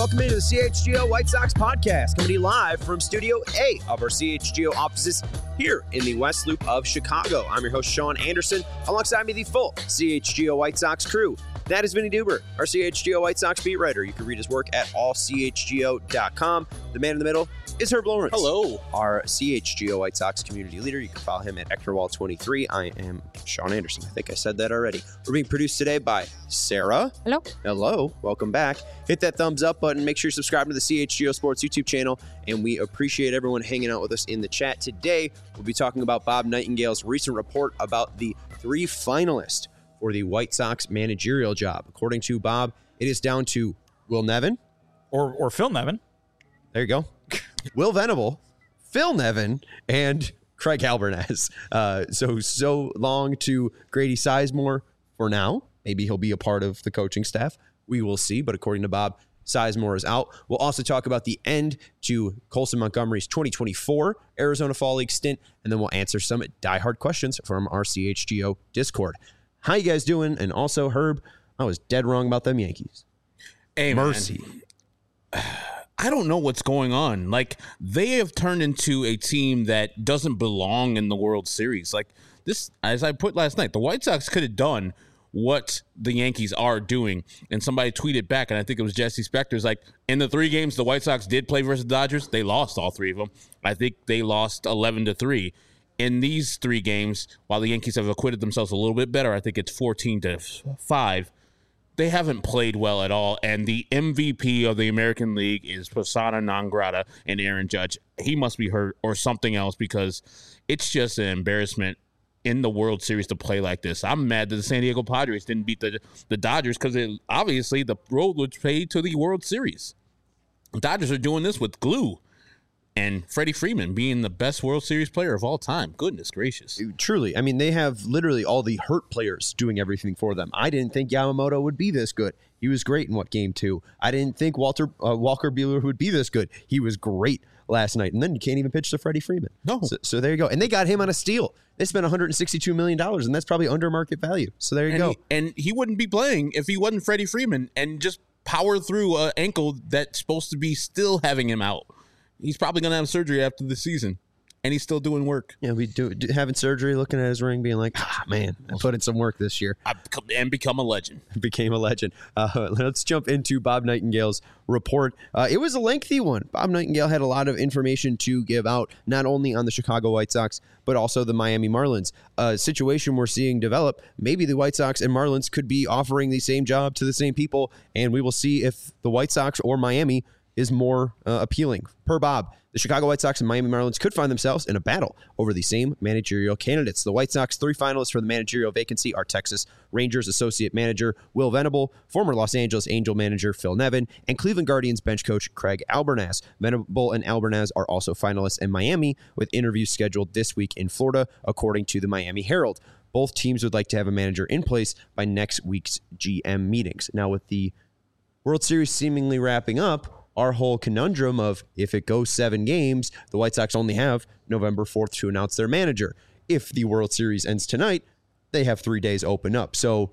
welcome into the CHGO White Sox podcast, coming to you live from Studio A of our CHGO offices here in the West Loop of Chicago. I'm your host, Sean Anderson. Alongside me, the full CHGO White Sox crew. That is Vinny Duber, our CHGO White Sox beat writer. You can read his work at allchgo.com. The man in the middle is Herb Lawrence. Hello. Our CHGO White Sox community leader. You can follow him at EctorWall23. I am Sean Anderson. I think I said that already. We're being produced today by Sarah. Hello. Hello. Welcome back. Hit that thumbs up button. Make sure you subscribe to the CHGO Sports YouTube channel. And we appreciate everyone hanging out with us in the chat. Today, we'll be talking about Bob Nightingale's recent report about the 3 finalists for the White Sox managerial job. According to Bob, it is down to Will Nevin. Or Phil Nevin. There you go. Will Venable, Phil Nevin, and Craig Albernaz. So long to Grady Sizemore for now. Maybe he'll be a part of the coaching staff. We will see. But according to Bob, Sizemore is out. We'll also talk about the end to Colson Montgomery's 2024 Arizona Fall League stint, and then we'll answer some diehard questions from our CHGO Discord. How you guys doing? And also, Herb, I was dead wrong about them Yankees. Hey, Mercy. Man. I don't know what's going on. Like, they have turned into a team that doesn't belong in the World Series. Like, this, as I put last night, the White Sox could have done what the Yankees are doing. And somebody tweeted back, and I think it was Jesse Spector's like, in the 3 games the White Sox did play versus the Dodgers, they lost all 3 of them. I think they lost 11-3. In these 3 games, while the Yankees have acquitted themselves a little bit better, I think it's 14-5. They haven't played well at all, and the MVP of the American League is persona non grata and Aaron Judge. He must be hurt or something else, because it's just an embarrassment in the World Series to play like this. I'm mad that the San Diego Padres didn't beat the Dodgers, because obviously the road was paid to the World Series. The Dodgers are doing this with glue. And Freddie Freeman being the best World Series player of all time. Goodness gracious. Truly. I mean, they have literally all the hurt players doing everything for them. I didn't think Yamamoto would be this good. He was great in Game 2. I didn't think Walker Buehler would be this good. He was great last night. And then you can't even pitch to Freddie Freeman. No. So there you go. And they got him on a steal. They spent $162 million, and that's probably under market value. So there you go. And he wouldn't be playing if he wasn't Freddie Freeman and just power through an ankle that's supposed to be still having him out. He's probably going to have surgery after the season, and he's still doing work. Yeah, having surgery, looking at his ring, being like, man, I put in some work this year. And become a legend. Became a legend. Let's jump into Bob Nightingale's report. It was a lengthy one. Bob Nightingale had a lot of information to give out, not only on the Chicago White Sox, but also the Miami Marlins. A situation we're seeing develop. Maybe the White Sox and Marlins could be offering the same job to the same people, and we will see if the White Sox or Miami is more appealing. Per Bob, the Chicago White Sox and Miami Marlins could find themselves in a battle over the same managerial candidates. The White Sox 3 finalists for the managerial vacancy are Texas Rangers associate manager Will Venable, former Los Angeles Angel manager Phil Nevin, and Cleveland Guardians bench coach Craig Albernaz. Venable and Albernaz are also finalists in Miami, with interviews scheduled this week in Florida, according to the Miami Herald. Both teams would like to have a manager in place by next week's GM meetings. Now, with the World Series seemingly wrapping up, our whole conundrum of if it goes 7 games, the White Sox only have November 4th to announce their manager. If the World Series ends tonight, they have 3 days open up. So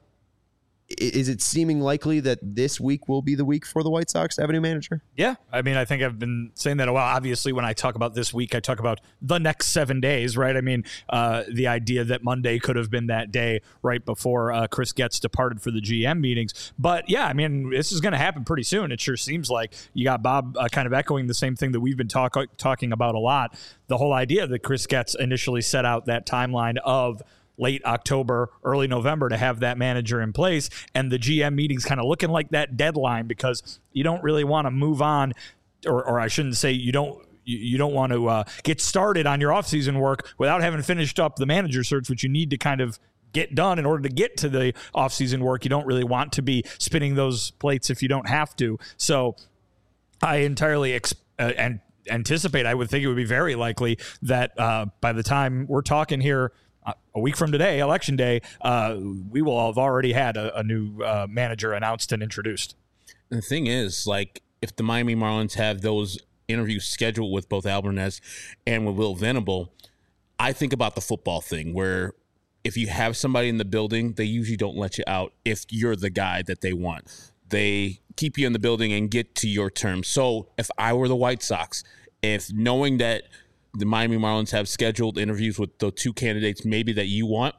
is it seeming likely that this week will be the week for the White Sox to have a new manager? Yeah. I mean, I think I've been saying that a while. Obviously, when I talk about this week, I talk about the next 7 days, right? I mean, the idea that Monday could have been that day right before Chris Getz departed for the GM meetings. But yeah, I mean, this is going to happen pretty soon. It sure seems like. You got Bob kind of echoing the same thing that we've been talking about a lot. The whole idea that Chris Getz initially set out that timeline of late October, early November to have that manager in place, and the GM meetings kind of looking like that deadline, because you don't really want to move on, or I shouldn't say you don't want to get started on your offseason work without having finished up the manager search, which you need to kind of get done in order to get to the offseason work. You don't really want to be spinning those plates if you don't have to. So I entirely anticipate, I would think it would be very likely that by the time we're talking here a week from today, Election Day, we will have already had a new manager announced and introduced. And the thing is, like, if the Miami Marlins have those interviews scheduled with both Albernaz and with Will Venable, I think about the football thing where if you have somebody in the building, they usually don't let you out if you're the guy that they want. They keep you in the building and get to your terms. So if I were the White Sox, if knowing that the Miami Marlins have scheduled interviews with the two candidates maybe that you want,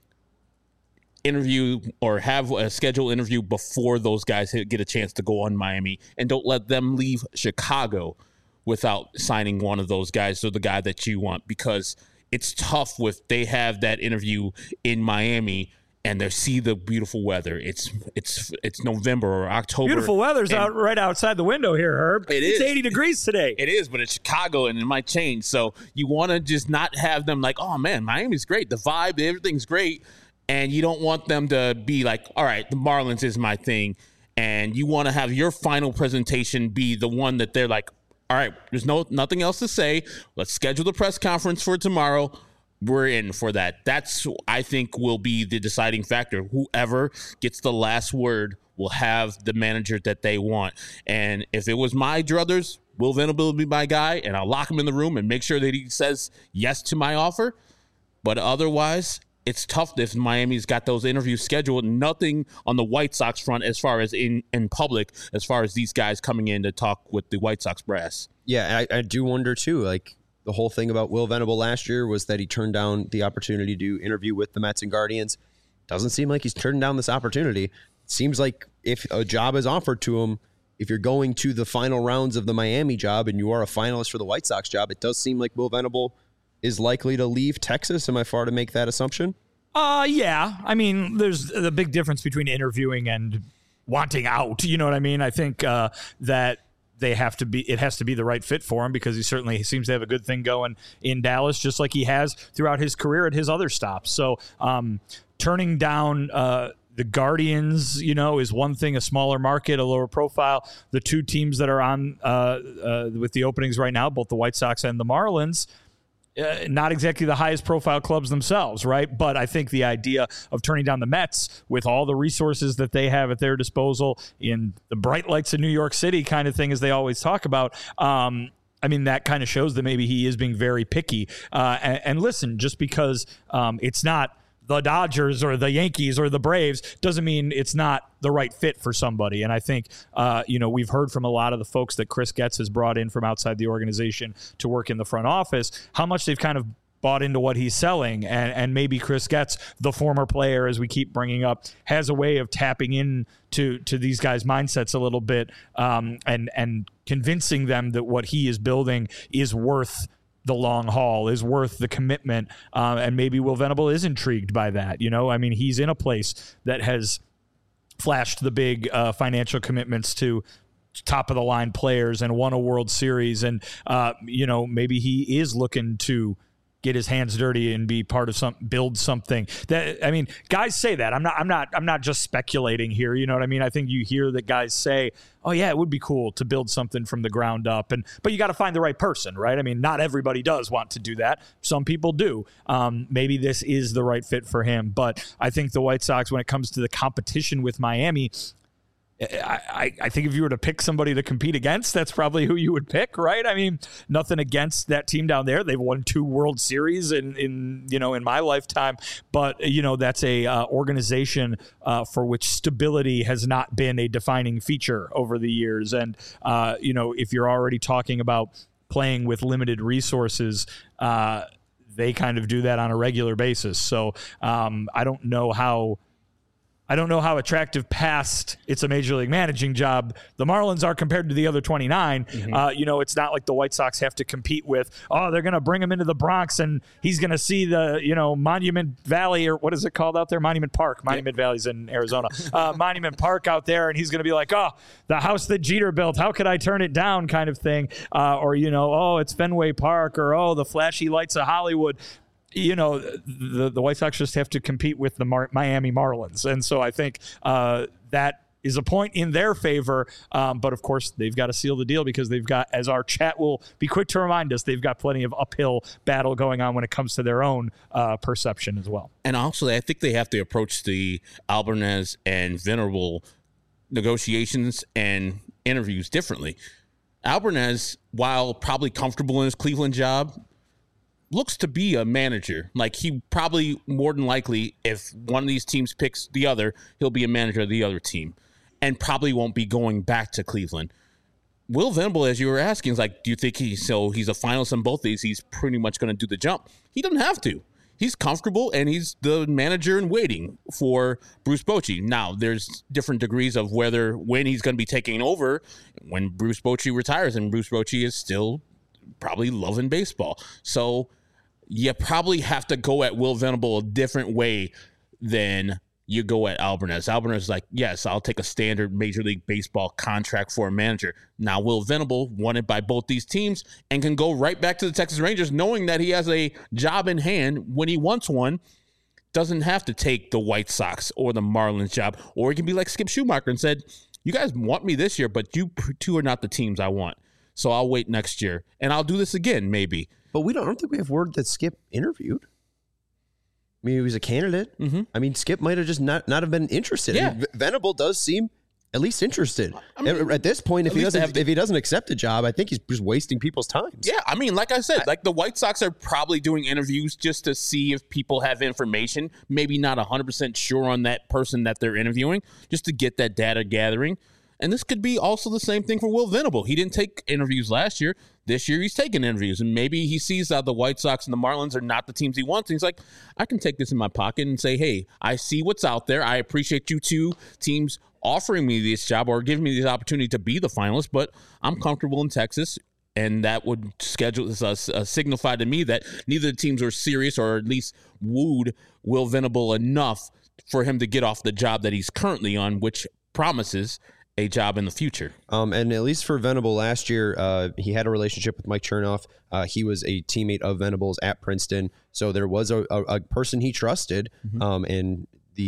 interview or have a scheduled interview before those guys get a chance to go on Miami, and don't let them leave Chicago without signing one of those guys or the guy that you want, because it's tough with they have that interview in Miami and they see the beautiful weather. It's November or October. Beautiful weather's out right outside the window here, Herb. It's 80 degrees today. It is, but it's Chicago and it might change. So you want to just not have them like, oh man, Miami's great. The vibe, everything's great. And you don't want them to be like, all right, the Marlins is my thing. And you want to have your final presentation be the one that they're like, all right, there's nothing else to say. Let's schedule the press conference for tomorrow. We're in for that. That's, I think, will be the deciding factor. Whoever gets the last word will have the manager that they want. And if it was my druthers, Will Venable will be my guy, and I'll lock him in the room and make sure that he says yes to my offer. But otherwise, it's tough if Miami's got those interviews scheduled. Nothing on the White Sox front as far as in public, as far as these guys coming in to talk with the White Sox brass. Yeah, I do wonder, too, like, the whole thing about Will Venable last year was that he turned down the opportunity to interview with the Mets and Guardians. Doesn't seem like he's turned down this opportunity. It seems like if a job is offered to him, if you're going to the final rounds of the Miami job and you are a finalist for the White Sox job, it does seem like Will Venable is likely to leave Texas. Am I far to make that assumption? Yeah. I mean, there's the big difference between interviewing and wanting out. You know what I mean? I think that it has to be the right fit for him, because he certainly seems to have a good thing going in Dallas, just like he has throughout his career at his other stops. So turning down the Guardians, is one thing, a smaller market, a lower profile. The two teams that are on with the openings right now, both the White Sox and the Marlins, not exactly the highest profile clubs themselves, right? But I think the idea of turning down the Mets with all the resources that they have at their disposal in the bright lights of New York City kind of thing, as they always talk about, I mean, that kind of shows that maybe he is being very picky. And listen, just because it's not the Dodgers or the Yankees or the Braves doesn't mean it's not the right fit for somebody. And I think, we've heard from a lot of the folks that Chris Getz has brought in from outside the organization to work in the front office, how much they've kind of bought into what he's selling. And maybe Chris Getz, the former player, as we keep bringing up, has a way of tapping into these guys' mindsets a little bit and convincing them that what he is building is worth the long haul, is worth the commitment, and maybe Will Venable is intrigued by that. I mean, he's in a place that has flashed the big financial commitments to top of the line players and won a World Series, and maybe he is looking to get his hands dirty and be part of build something. That, I mean, guys say that. I'm not just speculating here. You know what I mean? I think you hear that guys say, "Oh yeah, it would be cool to build something from the ground up." But you got to find the right person, right? I mean, not everybody does want to do that. Some people do. Maybe this is the right fit for him. But I think the White Sox, when it comes to the competition with Miami, I think if you were to pick somebody to compete against, that's probably who you would pick, right? I mean, nothing against that team down there. They've won 2 World Series in my lifetime, but that's a organization for which stability has not been a defining feature over the years. And if you're already talking about playing with limited resources, they kind of do that on a regular basis. So I don't know how attractive past it's a major league managing job the Marlins are compared to the other 29. Mm-hmm. It's not like the White Sox have to compete with, they're going to bring him into the Bronx and he's going to see the, Monument Valley, or what is it called out there? Monument Park. Monument Valley's in Arizona. Monument Park out there, and he's going to be like, the house that Jeter built, how could I turn it down kind of thing. Or, it's Fenway Park, or, the flashy lights of Hollywood. The White Sox just have to compete with the Miami Marlins. And so I think that is a point in their favor. But, of course, they've got to seal the deal because they've got, as our chat will be quick to remind us, they've got plenty of uphill battle going on when it comes to their own perception as well. And also, I think they have to approach the Albarnez and Venable negotiations and interviews differently. Albarnez, while probably comfortable in his Cleveland job, looks to be a manager. Like, he probably, more than likely, if one of these teams picks the other, he'll be a manager of the other team. and probably won't be going back to Cleveland. Will Venable, as you were asking, is like, do you think he's a finalist in both these? He's pretty much going to do the jump. He doesn't have to. He's comfortable, and he's the manager in waiting for Bruce Bochy. Now, there's different degrees of when he's going to be taking over when Bruce Bochy retires, and Bruce Bochy is still probably loving baseball. So you probably have to go at Will Venable a different way than you go at Alvarez. Alvarez is like, yes, I'll take a standard Major League Baseball contract for a manager. Now, Will Venable, wanted by both these teams, and can go right back to the Texas Rangers knowing that he has a job in hand when he wants one. Doesn't have to take the White Sox or the Marlins job. Or he can be like Skip Schumacher and said, you guys want me this year, but you two are not the teams I want. So I'll wait next year, and I'll do this again, maybe. But I don't think we have word that Skip interviewed. I mean, he was a candidate. Mm-hmm. I mean, Skip might have just not have been interested. Yeah. I mean, Venable does seem at least interested. I mean, at this point, if he doesn't accept the job, I think he's just wasting people's time. Yeah, I mean, like I said, like the White Sox are probably doing interviews just to see if people have information. Maybe not 100% sure on that person that they're interviewing, just to get that data gathering. And this could be also the same thing for Will Venable. He didn't take interviews last year. This year he's taking interviews. And maybe he sees that the White Sox and the Marlins are not the teams he wants. And he's like, I can take this in my pocket and say, hey, I see what's out there. I appreciate you two teams offering me this job or giving me the opportunity to be the finalist, but I'm comfortable in Texas. And that would signify to me that neither of the teams are serious or at least wooed Will Venable enough for him to get off the job that he's currently on, which promises a job in the future. And at least for Venable last year, he had a relationship with Mike Chernoff. He was a teammate of Venable's at Princeton. So there was a person he trusted. And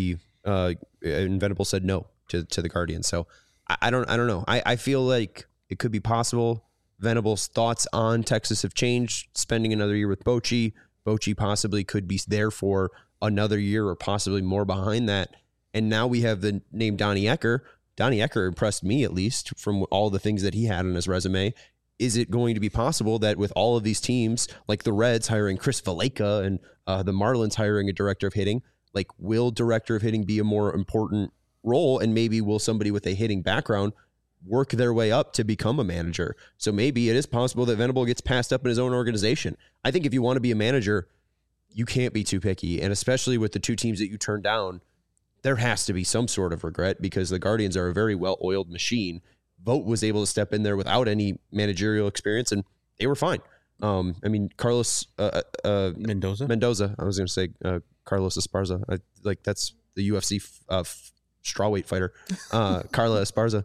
Venable said no to the Guardians. So I don't know. I feel like it could be possible. Venable's thoughts on Texas have changed. Spending another year with Bochy possibly could be there for another year or possibly more behind that. And now we have the name Donnie Ecker. Donnie Ecker impressed me, at least, from all the things that he had on his resume. Is it going to be possible that with all of these teams, like the Reds hiring Chris Valleca and the Marlins hiring a director of hitting, like will director of hitting be a more important role? And maybe will somebody with a hitting background work their way up to become a manager? So maybe it is possible that Venable gets passed up in his own organization. I think if you want to be a manager, you can't be too picky. And especially with the two teams that you turned down, there has to be some sort of regret because the Guardians are a very well-oiled machine. Vogt was able to step in there without any managerial experience, and they were fine. I mean, Carlos Mendoza. I was going to say Carlos Esparza. That's the UFC strawweight fighter, Carla Esparza.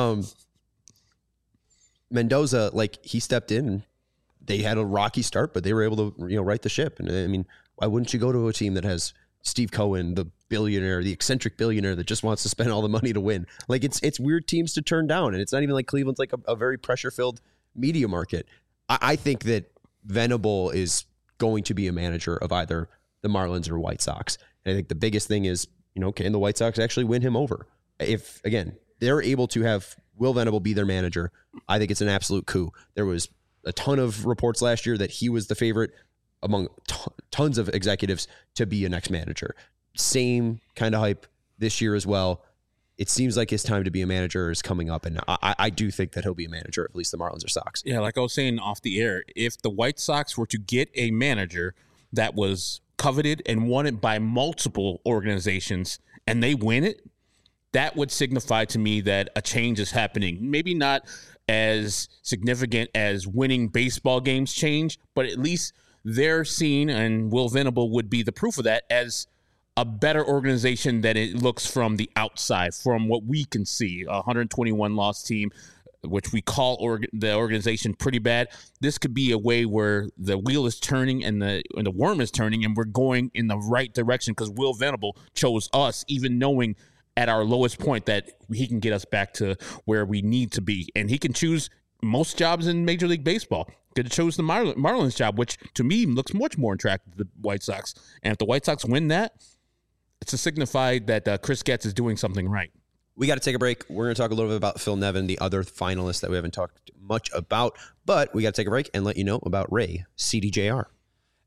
Mendoza, he stepped in. And they had a rocky start, but they were able to right the ship. And I mean, why wouldn't you go to a team that has Steve Cohen, the billionaire, the eccentric billionaire that just wants to spend all the money to win? It's weird teams to turn down, and it's not even like Cleveland's like a very pressure-filled media market. I think that Venable is going to be a manager of either the Marlins or White Sox. And I think the biggest thing is, can the White Sox actually win him over? If, again, they're able to have Will Venable be their manager, I think it's an absolute coup. There was a ton of reports last year that he was the favorite among tons of executives to be a next manager. Same kind of hype this year as well. It seems like his time to be a manager is coming up, and I do think that he'll be a manager, at least the Marlins or Sox. Yeah, like I was saying off the air, if the White Sox were to get a manager that was coveted and wanted by multiple organizations and they win it, that would signify to me that a change is happening. Maybe not as significant as winning baseball games change, but at least they're seen, and Will Venable would be the proof of that, as a better organization than it looks from the outside, from what we can see. A 121-loss team, which we call the organization pretty bad. This could be a way where the wheel is turning and the worm is turning, and we're going in the right direction because Will Venable chose us, even knowing at our lowest point that he can get us back to where we need to be. And he can choose most jobs in Major League Baseball. Could have chose the Marlins job, which to me looks much more attractive to the White Sox. And if the White Sox win that, it's a signify that Chris Getz is doing something right. We got to take a break. We're going to talk a little bit about Phil Nevin, the other finalist that we haven't talked much about, but we got to take a break and let you know about Ray CDJR.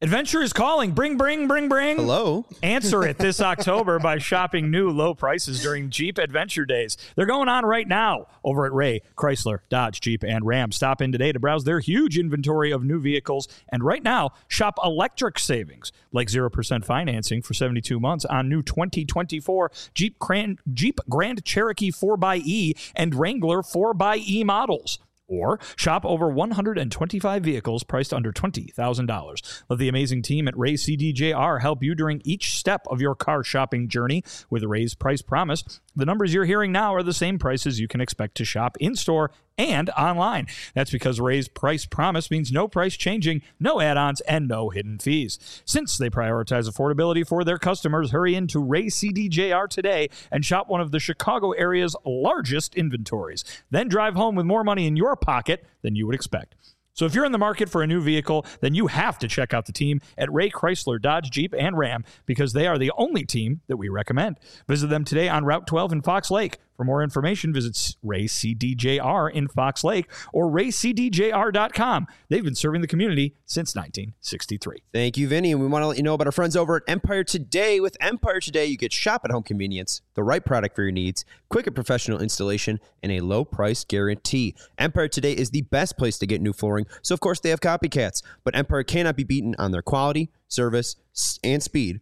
Adventure is calling. Bring. Hello? Answer it this October by shopping new low prices during Jeep Adventure Days. They're going on right now over at Ray, Chrysler, Dodge, Jeep, and Ram. Stop in today to browse their huge inventory of new vehicles. And right now, shop electric savings, like 0% financing for 72 months on new 2024 Jeep Grand Cherokee 4xE and Wrangler 4xE models. Or shop over 125 vehicles priced under $20,000. Let the amazing team at Ray CDJR help you during each step of your car shopping journey with Ray's Price Promise. The numbers you're hearing now are the same prices you can expect to shop in-store and online. That's because Ray's Price Promise means no price changing, no add-ons, and no hidden fees. Since they prioritize affordability for their customers, hurry into Ray CDJR today and shop one of the Chicago area's largest inventories. Then drive home with more money in your pocket than you would expect. So if you're in the market for a new vehicle, then you have to check out the team at Ray Chrysler, Dodge, Jeep, and Ram because they are the only team that we recommend. Visit them today on Route 12 in Fox Lake. For more information, visit Ray CDJR in Fox Lake or raycdjr.com. They've been serving the community since 1963. Thank you, Vinny. And we want to let you know about our friends over at Empire Today. With Empire Today, you get shop-at-home convenience, the right product for your needs, quick and professional installation, and a low price guarantee. Empire Today is the best place to get new flooring, so of course they have copycats. But Empire cannot be beaten on their quality, service, and speed.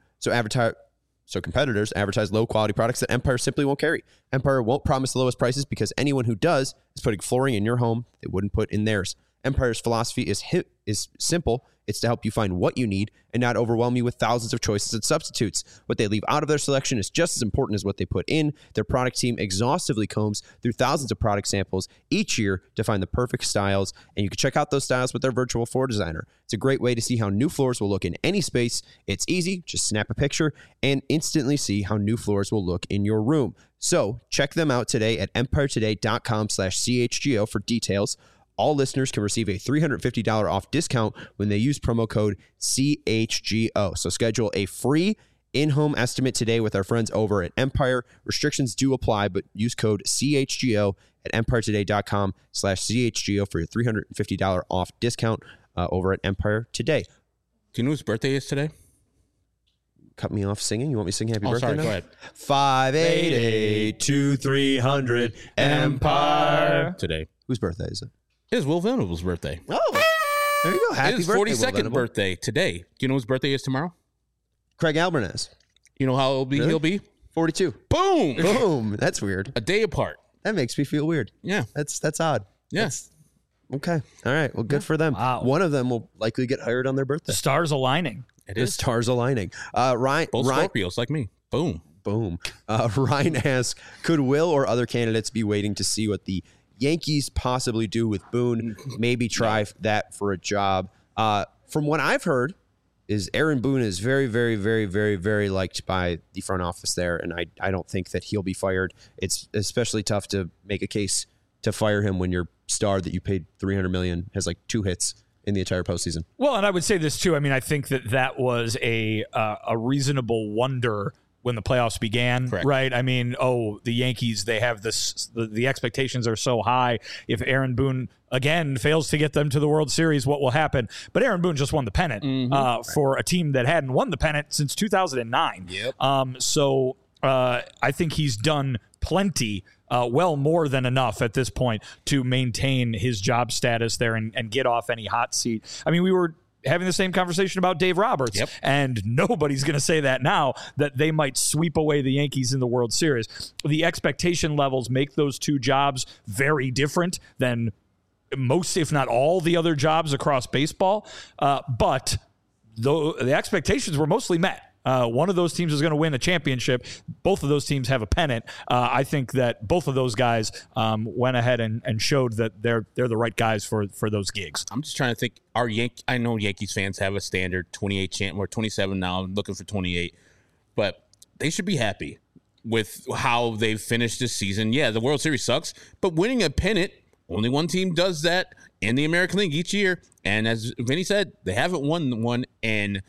So competitors advertise low-quality products that Empire simply won't carry. Empire won't promise the lowest prices because anyone who does is putting flooring in your home they wouldn't put in theirs. Empire's philosophy is simple. It's to help you find what you need and not overwhelm you with thousands of choices and substitutes. What they leave out of their selection is just as important as what they put in. Their product team exhaustively combs through thousands of product samples each year to find the perfect styles, and you can check out those styles with their virtual floor designer. It's a great way to see how new floors will look in any space. It's easy. Just snap a picture and instantly see how new floors will look in your room. So check them out today at empiretoday.com/CHGO for details. All listeners can receive a $350 off discount when they use promo code CHGO. So schedule a free in-home estimate today with our friends over at Empire. Restrictions do apply, but use code CHGO at empiretoday.com/CHGO for your $350 off discount over at Empire Today. Do you know whose birthday is today? Cut me off singing? You want me to sing happy birthday sorry, now? go ahead. 588-2300 Empire. Today. Whose birthday is it? It is Will Venable's birthday. Oh, there you go. Happy His birthday, 42nd birthday today. Do you know whose birthday is tomorrow? Craig Albernaz. You know how he'll be? 42. Boom! Boom. That's weird. A day apart. That makes me feel weird. Yeah. That's odd. Yes. Okay. All right. Well, good for them. Wow. One of them will likely get hired on their birthday. The stars aligning. It The is. stars aligning. Ryan. Both Scorpios like me. Boom. Boom. Ryan asks, could Will or other candidates be waiting to see what the Yankees possibly do with Boone? Maybe try that for a job. From what I've heard, is Aaron Boone is very, very, very, very, very liked by the front office there, and I don't think that he'll be fired. It's especially tough to make a case to fire him when your star that you paid $300 million has like 2 hits in the entire postseason. Well, and I would say this too. I mean, I think that was a reasonable wonder when the playoffs began, Correct. Right? I mean, the Yankees, they have this, the expectations are so high. If Aaron Boone, again, fails to get them to the World Series, what will happen? But Aaron Boone just won the pennant for a team that hadn't won the pennant since 2009. Yep. So I think he's done plenty, well more than enough at this point to maintain his job status there and get off any hot seat. I mean, we were having the same conversation about Dave Roberts, and nobody's going to say that now, that they might sweep away the Yankees in the World Series. The expectation levels make those two jobs very different than most, if not all, the other jobs across baseball. But the expectations were mostly met. One of those teams is going to win a championship. Both of those teams have a pennant. I think that both of those guys went ahead and showed that they're the right guys for those gigs. I'm just trying to think. I know Yankees fans have a standard 28 champ. We're 27 now. I'm looking for 28, but they should be happy with how they've finished this season. Yeah, the World Series sucks, but winning a pennant, only one team does that in the American League each year. And as Vinny said, they haven't won one in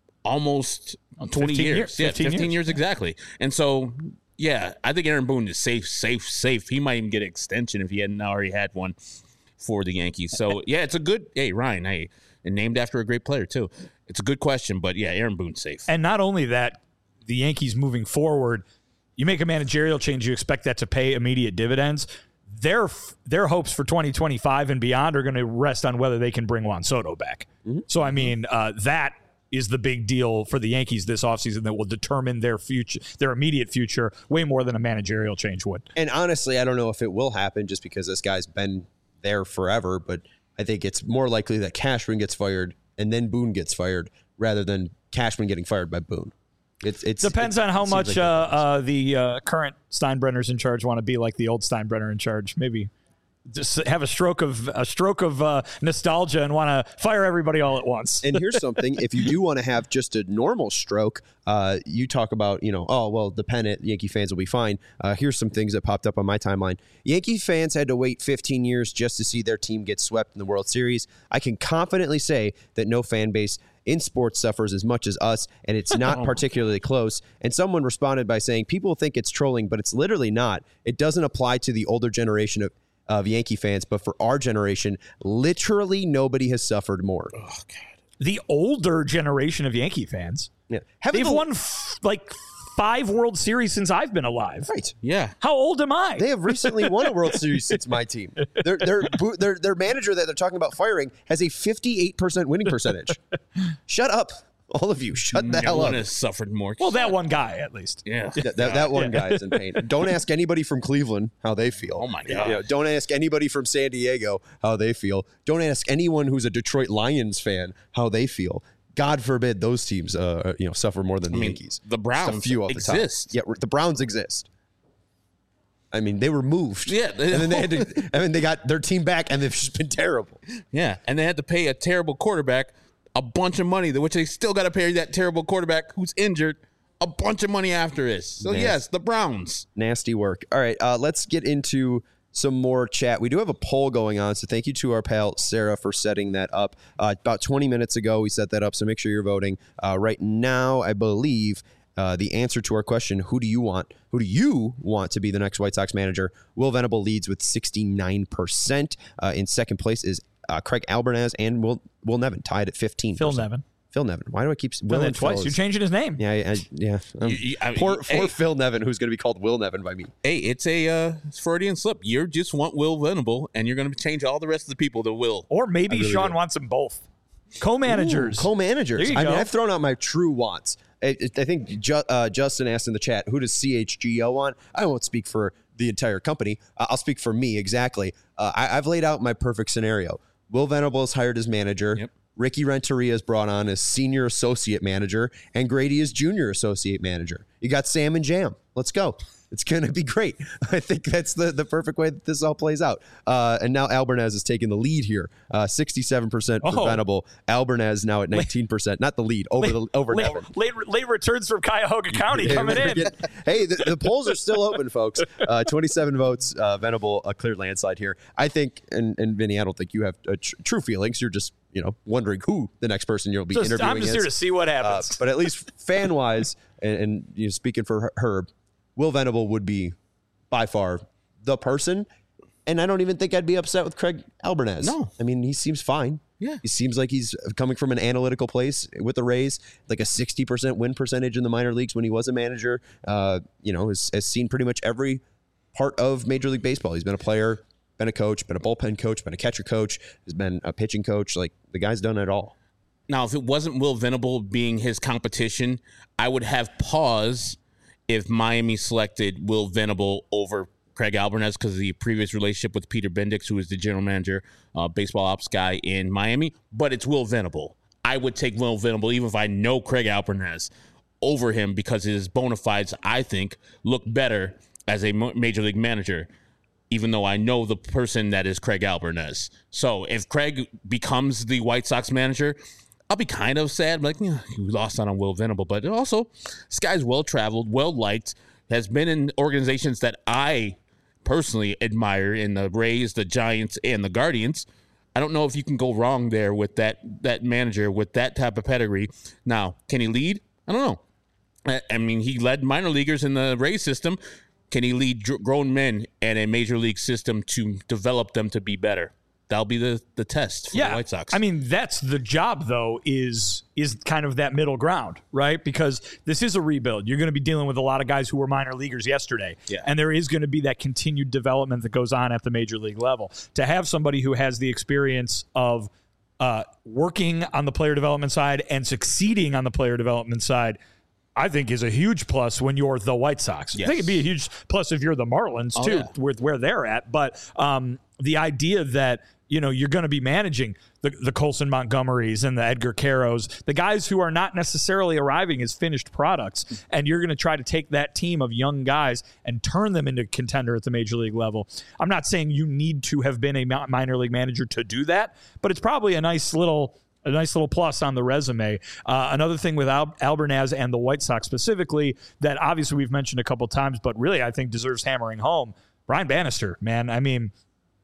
almost 20 years. 15 years exactly. And so, yeah, I think Aaron Boone is safe. He might even get an extension if he hadn't already had one for the Yankees. So, yeah, it's a good – hey, Ryan, hey, and named after a great player too. It's a good question, but yeah, Aaron Boone's safe. And not only that, the Yankees moving forward, you make a managerial change, you expect that to pay immediate dividends. Their hopes for 2025 and beyond are going to rest on whether they can bring Juan Soto back. Mm-hmm. So, I mean, that is the big deal for the Yankees this offseason that will determine their future, their immediate future, way more than a managerial change would. And honestly, I don't know if it will happen just because this guy's been there forever, but I think it's more likely that Cashman gets fired and then Boone gets fired rather than Cashman getting fired by Boone. It depends on how much the current Steinbrenners in charge want to be like the old Steinbrenner in charge. Maybe just have a stroke of nostalgia and want to fire everybody all at once. And here's something: if you do want to have just a normal stroke, you talk about the pennant. Yankee fans will be fine. Here's some things that popped up on my timeline. Yankee fans had to wait 15 years just to see their team get swept in the World Series. I can confidently say that no fan base in sports suffers as much as us, and it's not particularly close. And someone responded by saying, people think it's trolling, but it's literally not. It doesn't apply to the older generation of Yankee fans, but for our generation, literally nobody has suffered more. Oh, God. The older generation of Yankee fans? Yeah. They've won 5 World Series since I've been alive. Right. Yeah. How old am I? They have recently won a World Series since my team. Their manager that they're talking about firing has a 58% winning percentage. Shut up. All of you, shut the hell up. No one has suffered more. Well, that one guy, at least. Yeah. That one guy is in pain. Don't ask anybody from Cleveland how they feel. Oh, my God. Don't ask anybody from San Diego how they feel. Don't ask anyone who's a Detroit Lions fan how they feel. God forbid those teams suffer more than the Yankees. The Browns exist. Yeah, the Browns exist. I mean, they were moved. Yeah. And then they got their team back, and they've just been terrible. Yeah, and they had to pay a terrible quarterback a bunch of money, which they still got to pay that terrible quarterback who's injured a bunch of money after this. So, yes, the Browns. Nasty work. All right, let's get into some more chat. We do have a poll going on, so thank you to our pal Sarah for setting that up. About 20 minutes ago, we set that up, so make sure you're voting. Right now, I believe the answer to our question, who do you want to be the next White Sox manager? Will Venable leads with 69%. In second place is Craig Albernaz and Will Nevin, tied at 15%. Phil Nevin. Why do I keep Will and twice? You're changing his name. Yeah. Poor Phil Nevin, who's going to be called Will Nevin by me. Hey, it's a Freudian slip. You just want Will Venable, and you're going to change all the rest of the people to Will. Or maybe really Sean wants them both. Co-managers. Ooh, co-managers. There you go. I've thrown out my true wants. I think Justin asked in the chat, who does CHGO want? I won't speak for the entire company. I'll speak for me, exactly. I've laid out my perfect scenario. Will Venable is hired as manager. Yep. Ricky Renteria is brought on as senior associate manager, and Grady is junior associate manager. You got Sam and Jam. Let's go. It's going to be great. I think that's the perfect way that this all plays out. And now Albernaz is taking the lead here. 67% for Venable. Albernaz now at 19%. Not the lead, over Nevin. Late returns from Cuyahoga County coming in. Hey, the polls are still open, folks. 27 votes. Venable, a clear landslide here. I think, and Vinny, I don't think you have true feelings. You're just wondering who the next person you'll be interviewing. I'm just here to see what happens. But at least fan-wise, and speaking for Herb, Will Venable would be by far the person, and I don't even think I'd be upset with Craig Albernaz. No. I mean, he seems fine. Yeah. He seems like he's coming from an analytical place with the Rays, like a 60% win percentage in the minor leagues when he was a manager. Has seen pretty much every part of Major League Baseball. He's been a player, been a coach, been a bullpen coach, been a catcher coach, has been a pitching coach. Like, the guy's done it all. Now, if it wasn't Will Venable being his competition, I would have pause if Miami selected Will Venable over Craig Albernaz because of the previous relationship with Peter Bendix, who is the general manager, baseball ops guy in Miami. But it's Will Venable. I would take Will Venable, even if I know Craig Albernaz, over him because his bona fides, I think, look better as a major league manager, even though I know the person that is Craig Albernaz. So if Craig becomes the White Sox manager, I'll be kind of sad, like, you lost out on Will Venable. But also, this guy's well-traveled, well-liked, has been in organizations that I personally admire in the Rays, the Giants, and the Guardians. I don't know if you can go wrong there with that manager with that type of pedigree. Now, can he lead? I don't know. I mean, he led minor leaguers in the Rays system. Can he lead grown men in a major league system to develop them to be better? that'll be the test for the White Sox. I mean, that's the job, though, is kind of that middle ground, right? Because this is a rebuild. You're going to be dealing with a lot of guys who were minor leaguers yesterday. Yeah. And there is going to be that continued development that goes on at the major league level. To have somebody who has the experience of working on the player development side and succeeding on the player development side, I think is a huge plus when you're the White Sox. Yes. I think it'd be a huge plus if you're the Marlins, too, with where they're at. But the idea that, you're going to be managing the Colson Montgomerys and the Edgar Caros, the guys who are not necessarily arriving as finished products, and you're going to try to take that team of young guys and turn them into contender at the major league level. I'm not saying you need to have been a minor league manager to do that, but it's probably a nice little plus on the resume. Another thing with Albernaz and the White Sox specifically that obviously we've mentioned a couple times, but really I think deserves hammering home, Brian Bannister, man. I mean,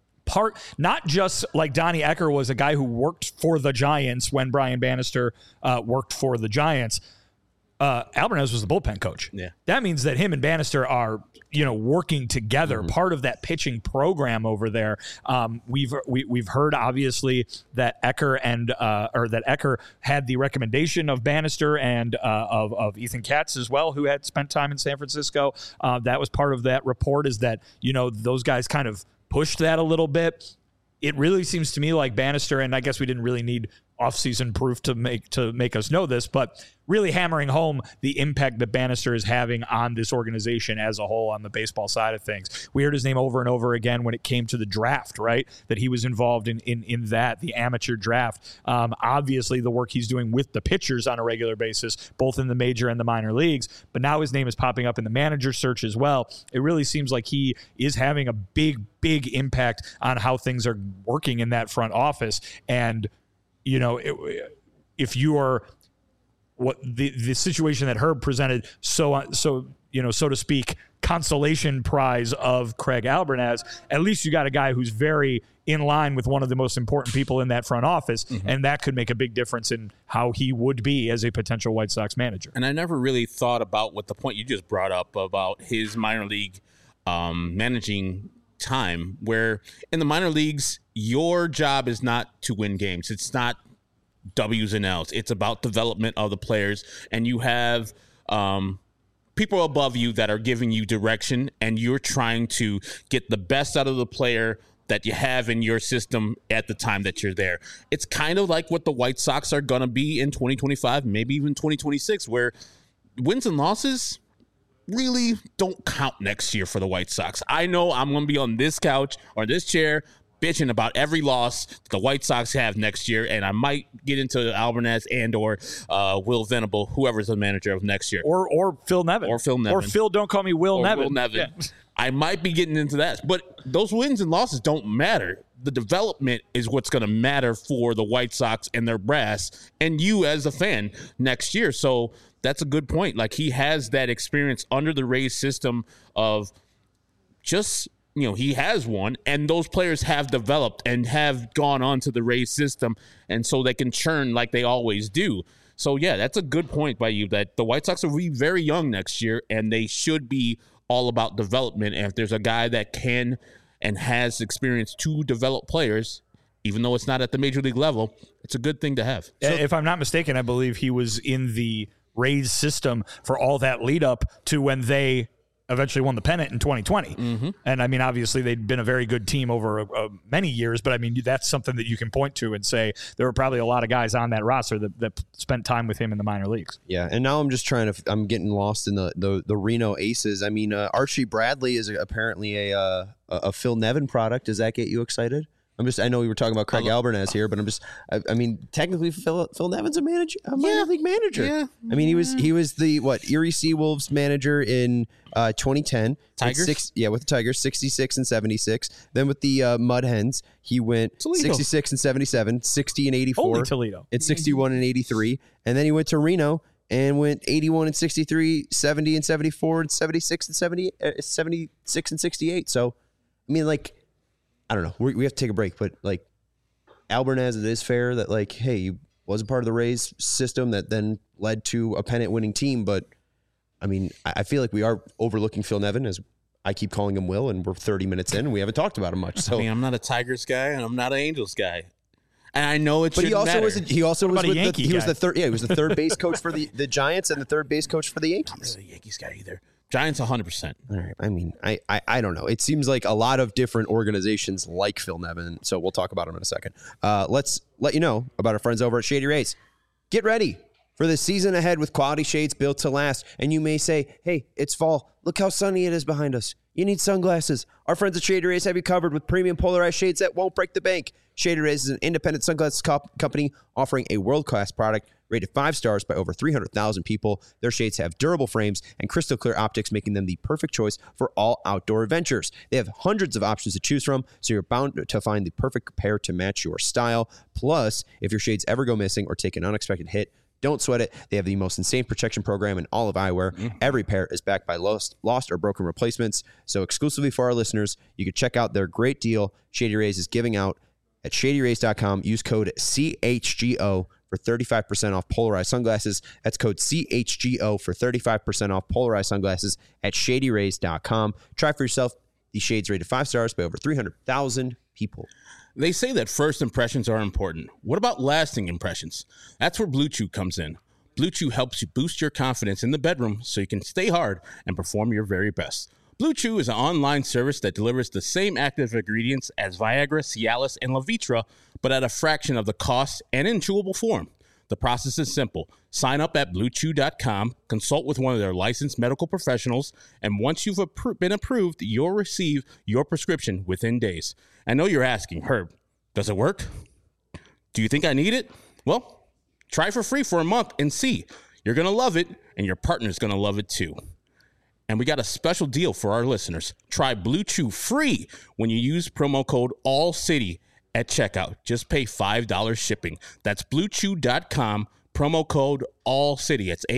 not just like Donnie Ecker was a guy who worked for the Giants when Brian Bannister worked for the Giants. Albernaz was the bullpen coach. Yeah. That means that him and Bannister are, working together, part of that pitching program over there. We've heard obviously that Ecker that Ecker had the recommendation of Bannister and of Ethan Katz as well, who had spent time in San Francisco. That was part of that report, is that, those guys kind of pushed that a little bit. It really seems to me like Bannister, and I guess we didn't really need offseason proof to make us know this, but really hammering home the impact that Bannister is having on this organization as a whole on the baseball side of things. We heard his name over and over again when it came to the draft, right? That he was involved in that, the amateur draft. Obviously, the work he's doing with the pitchers on a regular basis, both in the major and the minor leagues, but now his name is popping up in the manager search as well. It really seems like he is having a big impact on how things are working in that front office. And if you are what the situation that Herb presented, so to speak, consolation prize of Craig Albernaz, at least you got a guy who's very in line with one of the most important people in that front office, and that could make a big difference in how he would be as a potential White Sox manager. And I never really thought about what the point you just brought up about his minor league managing time, where in the minor leagues, your job is not to win games. It's not W's and L's. It's about development of the players, and you have people above you that are giving you direction, and you're trying to get the best out of the player that you have in your system at the time that you're there. It's kind of like what the White Sox are going to be in 2025, maybe even 2026, where wins and losses really don't count next year for the White Sox. I know I'm going to be on this couch or this chair bitching about every loss the White Sox have next year, and I might get into Albernaz and or Will Venable, whoever's the manager of next year. Or Phil Nevin. Or Phil Nevin. Or Phil, don't call me Will Nevin. Will Nevin. Yeah. I might be getting into that. But those wins and losses don't matter. The development is what's going to matter for the White Sox and their brass and you as a fan next year. So that's a good point. Like, he has that experience under the Rays system of just, he has one, and those players have developed and have gone on to the Rays system, and so they can churn like they always do. So, yeah, that's a good point by you, that the White Sox will be very young next year, and they should be all about development. And if there's a guy that can and has experience to develop players, even though it's not at the major league level, it's a good thing to have. So, if I'm not mistaken, I believe he was in the Rays system for all that lead up to when they eventually won the pennant in 2020. And I mean, obviously they'd been a very good team over many years, but I mean, that's something that you can point to and say there were probably a lot of guys on that roster that spent time with him in the minor leagues. Yeah. And now I'm getting lost in the Reno Aces. I mean, Archie Bradley is apparently a Phil Nevin product. Does that get you excited? I know we were talking about Craig Albernaz here, but I mean, technically Phil Nevin's a minor league manager. Yeah. I mean, he was the Erie Seawolves manager in 2010. Tigers? With the Tigers, 66 and 76. Then with the Mud Hens, he went Toledo. 66 and 77, 60 and 84. Only Toledo. And 61 and 83. And then he went to Reno and went 81 and 63, 70 and 74, and 76 and 76 and 68. So, I mean, like, I don't know. We have to take a break, but like Albernaz, it is fair that like, hey, he was a part of the Rays system that then led to a pennant winning team. But I mean, I feel like we are overlooking Phil Nevin, as I keep calling him Will, and we're 30 minutes in, and we haven't talked about him much. So I mean, I'm not a Tigers guy, and I'm not an Angels guy. And I know it shouldn't matter. He also was about a with Yankee he was guy? the third. Yeah, he was the third base coach for the Giants and the third base coach for the Yankees. I'm not a Yankees guy either. Giants 100%. All right. I mean, I don't know. It seems like a lot of different organizations like Phil Nevin. So we'll talk about him in a second. Let's let you know about our friends over at Shady Rays. Get ready for the season ahead with quality shades built to last. And you may say, hey, it's fall. Look how sunny it is behind us. You need sunglasses. Our friends at Shady Rays have you covered with premium polarized shades that won't break the bank. Shady Rays is an independent sunglasses company offering a world-class product rated 5 stars by over 300,000 people. Their shades have durable frames and crystal clear optics, making them the perfect choice for all outdoor adventures. They have hundreds of options to choose from, so you're bound to find the perfect pair to match your style. Plus, if your shades ever go missing or take an unexpected hit, don't sweat it. They have the most insane protection program in all of eyewear. Every pair is backed by lost or broken replacements. So exclusively for our listeners, you can check out their great deal Shady Rays is giving out at shadyrays.com. Use code CHGO for 35% off polarized sunglasses. That's code CHGO for 35% off polarized sunglasses at shadyrays.com. Try for yourself these shades rated 5 stars by over 300,000 people. They say that first impressions are important. What about lasting impressions? That's where Blue Chew comes in. Blue Chew helps you boost your confidence in the bedroom so you can stay hard and perform your very best. Blue Chew is an online service that delivers the same active ingredients as Viagra, Cialis, and Levitra, but at a fraction of the cost and in chewable form. The process is simple. Sign up at BlueChew.com, consult with one of their licensed medical professionals, and once you've been approved, you'll receive your prescription within days. I know you're asking, Herb, does it work? Do you think I need it? Well, try for free for a month and see. You're going to love it, and your partner's going to love it too. And we got a special deal for our listeners. Try Blue Chew free when you use promo code ALLCITY at checkout. Just pay $5 shipping. That's BlueChew.com, promo code ALLCITY. It's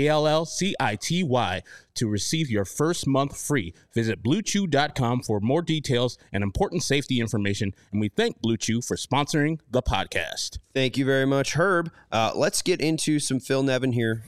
ALLCITY to receive your first month free. Visit BlueChew.com for more details and important safety information. And we thank Blue Chew for sponsoring the podcast. Thank you very much, Herb. Let's get into some Phil Nevin here.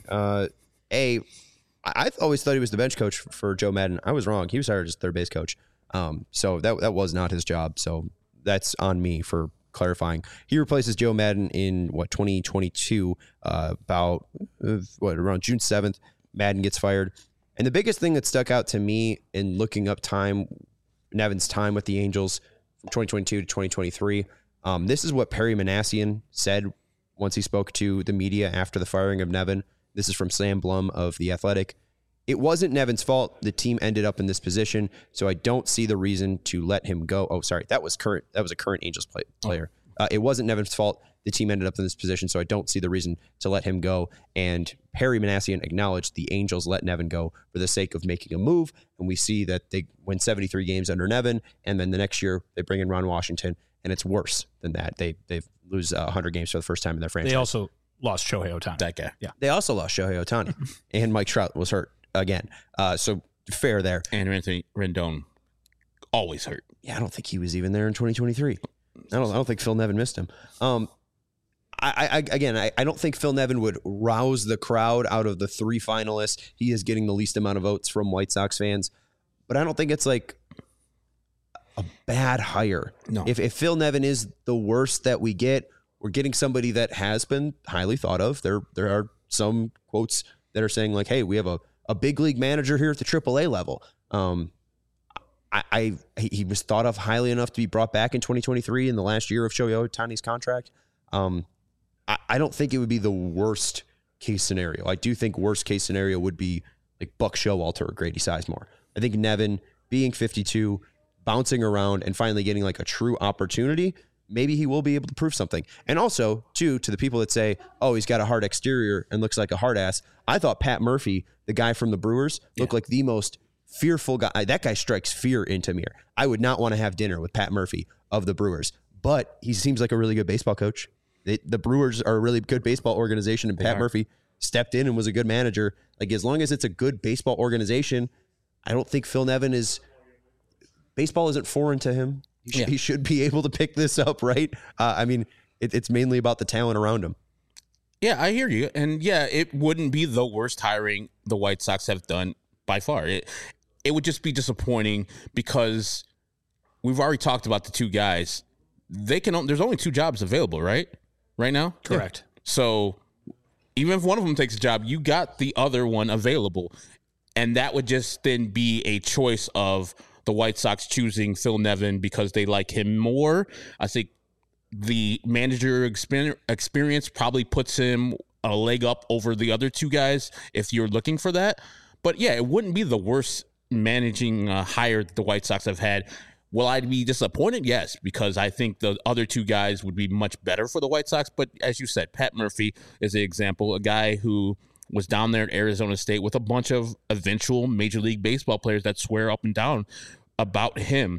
I always thought he was the bench coach for Joe Madden. I was wrong. He was hired as third base coach. So that was not his job. So that's on me for clarifying. He replaces Joe Madden in 2022, around June 7th. Madden gets fired. And the biggest thing that stuck out to me in looking up Nevin's time with the Angels from 2022 to 2023, this is what Perry Manassian said once he spoke to the media after the firing of Nevin. This is from Sam Blum of The Athletic. It wasn't Nevin's fault. The team ended up in this position, so I don't see the reason to let him go. Oh, sorry. That was a current Angels player. It wasn't Nevin's fault. The team ended up in this position, so I don't see the reason to let him go. And Perry Manassian acknowledged the Angels let Nevin go for the sake of making a move, and we see that they win 73 games under Nevin, and then the next year they bring in Ron Washington, and it's worse than that. They lose 100 games for the first time in their franchise. They also lost Shohei Ohtani. That guy. Yeah. They also lost Shohei Ohtani, and Mike Trout was hurt again. So fair there. And Anthony Rendon always hurt. Yeah, I don't think he was even there in 2023. I don't think Phil Nevin missed him. I don't think Phil Nevin would rouse the crowd out of the 3 finalists. He is getting the least amount of votes from White Sox fans, but I don't think it's like a bad hire. No. If Phil Nevin is the worst that we get, we're getting somebody that has been highly thought of. There are some quotes that are saying like, hey, we have a big league manager here at the AAA level. He was thought of highly enough to be brought back in 2023 in the last year of Shohei Ohtani's contract. I don't think it would be the worst case scenario. I do think worst case scenario would be like Buck Showalter or Grady Sizemore. I think Nevin being 52, bouncing around and finally getting like a true opportunity, maybe he will be able to prove something. And also, too, to the people that say, oh, he's got a hard exterior and looks like a hard ass. I thought Pat Murphy, the guy from the Brewers, looked like the most fearful guy. That guy strikes fear into me. I would not want to have dinner with Pat Murphy of the Brewers, but he seems like a really good baseball coach. The Brewers are a really good baseball organization, and Pat Murphy stepped in and was a good manager. Like, as long as it's a good baseball organization, I don't think Phil Nevin is... Baseball isn't foreign to him. He should be able to pick this up, right? I mean, it's mainly about the talent around him. Yeah, I hear you. And yeah, it wouldn't be the worst hiring the White Sox have done by far. it would just be disappointing because we've already talked about the two guys. There's only two jobs available, right now? Correct. Yeah. So even if one of them takes a job, you got the other one available. And that would just then be a choice of the White Sox choosing Phil Nevin because they like him more. I think the manager experience probably puts him a leg up over the other two guys if you're looking for that. But yeah, it wouldn't be the worst managing hire the White Sox have had. Will I be disappointed? Yes, because I think the other two guys would be much better for the White Sox. But as you said, Pat Murphy is an example, a guy who was down there at Arizona State with a bunch of eventual Major League Baseball players that swear up and down about him.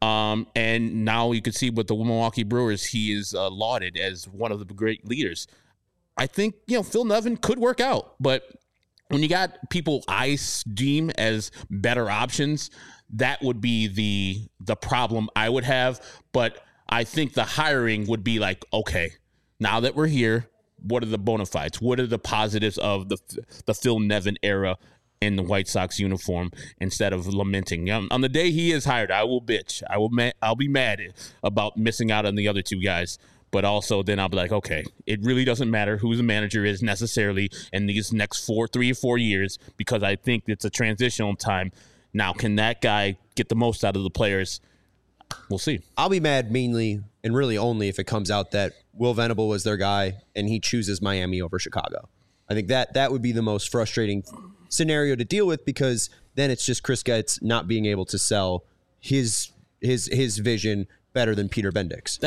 And now you can see with the Milwaukee Brewers, he is lauded as one of the great leaders. I think, Phil Nevin could work out, but when you got people I deem as better options, that would be the problem I would have. But I think the hiring would be like, okay, now that we're here, what are the bona fides? What are the positives of the Phil Nevin era in the White Sox uniform instead of lamenting? On the day he is hired, I will bitch. I'll be mad about missing out on the other two guys. But also then I'll be like, okay, it really doesn't matter who the manager is necessarily in these next 3 or 4 years because I think it's a transitional time. Now, can that guy get the most out of the players? We'll see. I'll be mad mainly and really only if it comes out that Will Venable was their guy and he chooses Miami over Chicago. I think that would be the most frustrating scenario to deal with because then it's just Chris Getz not being able to sell his vision better than Peter Bendix.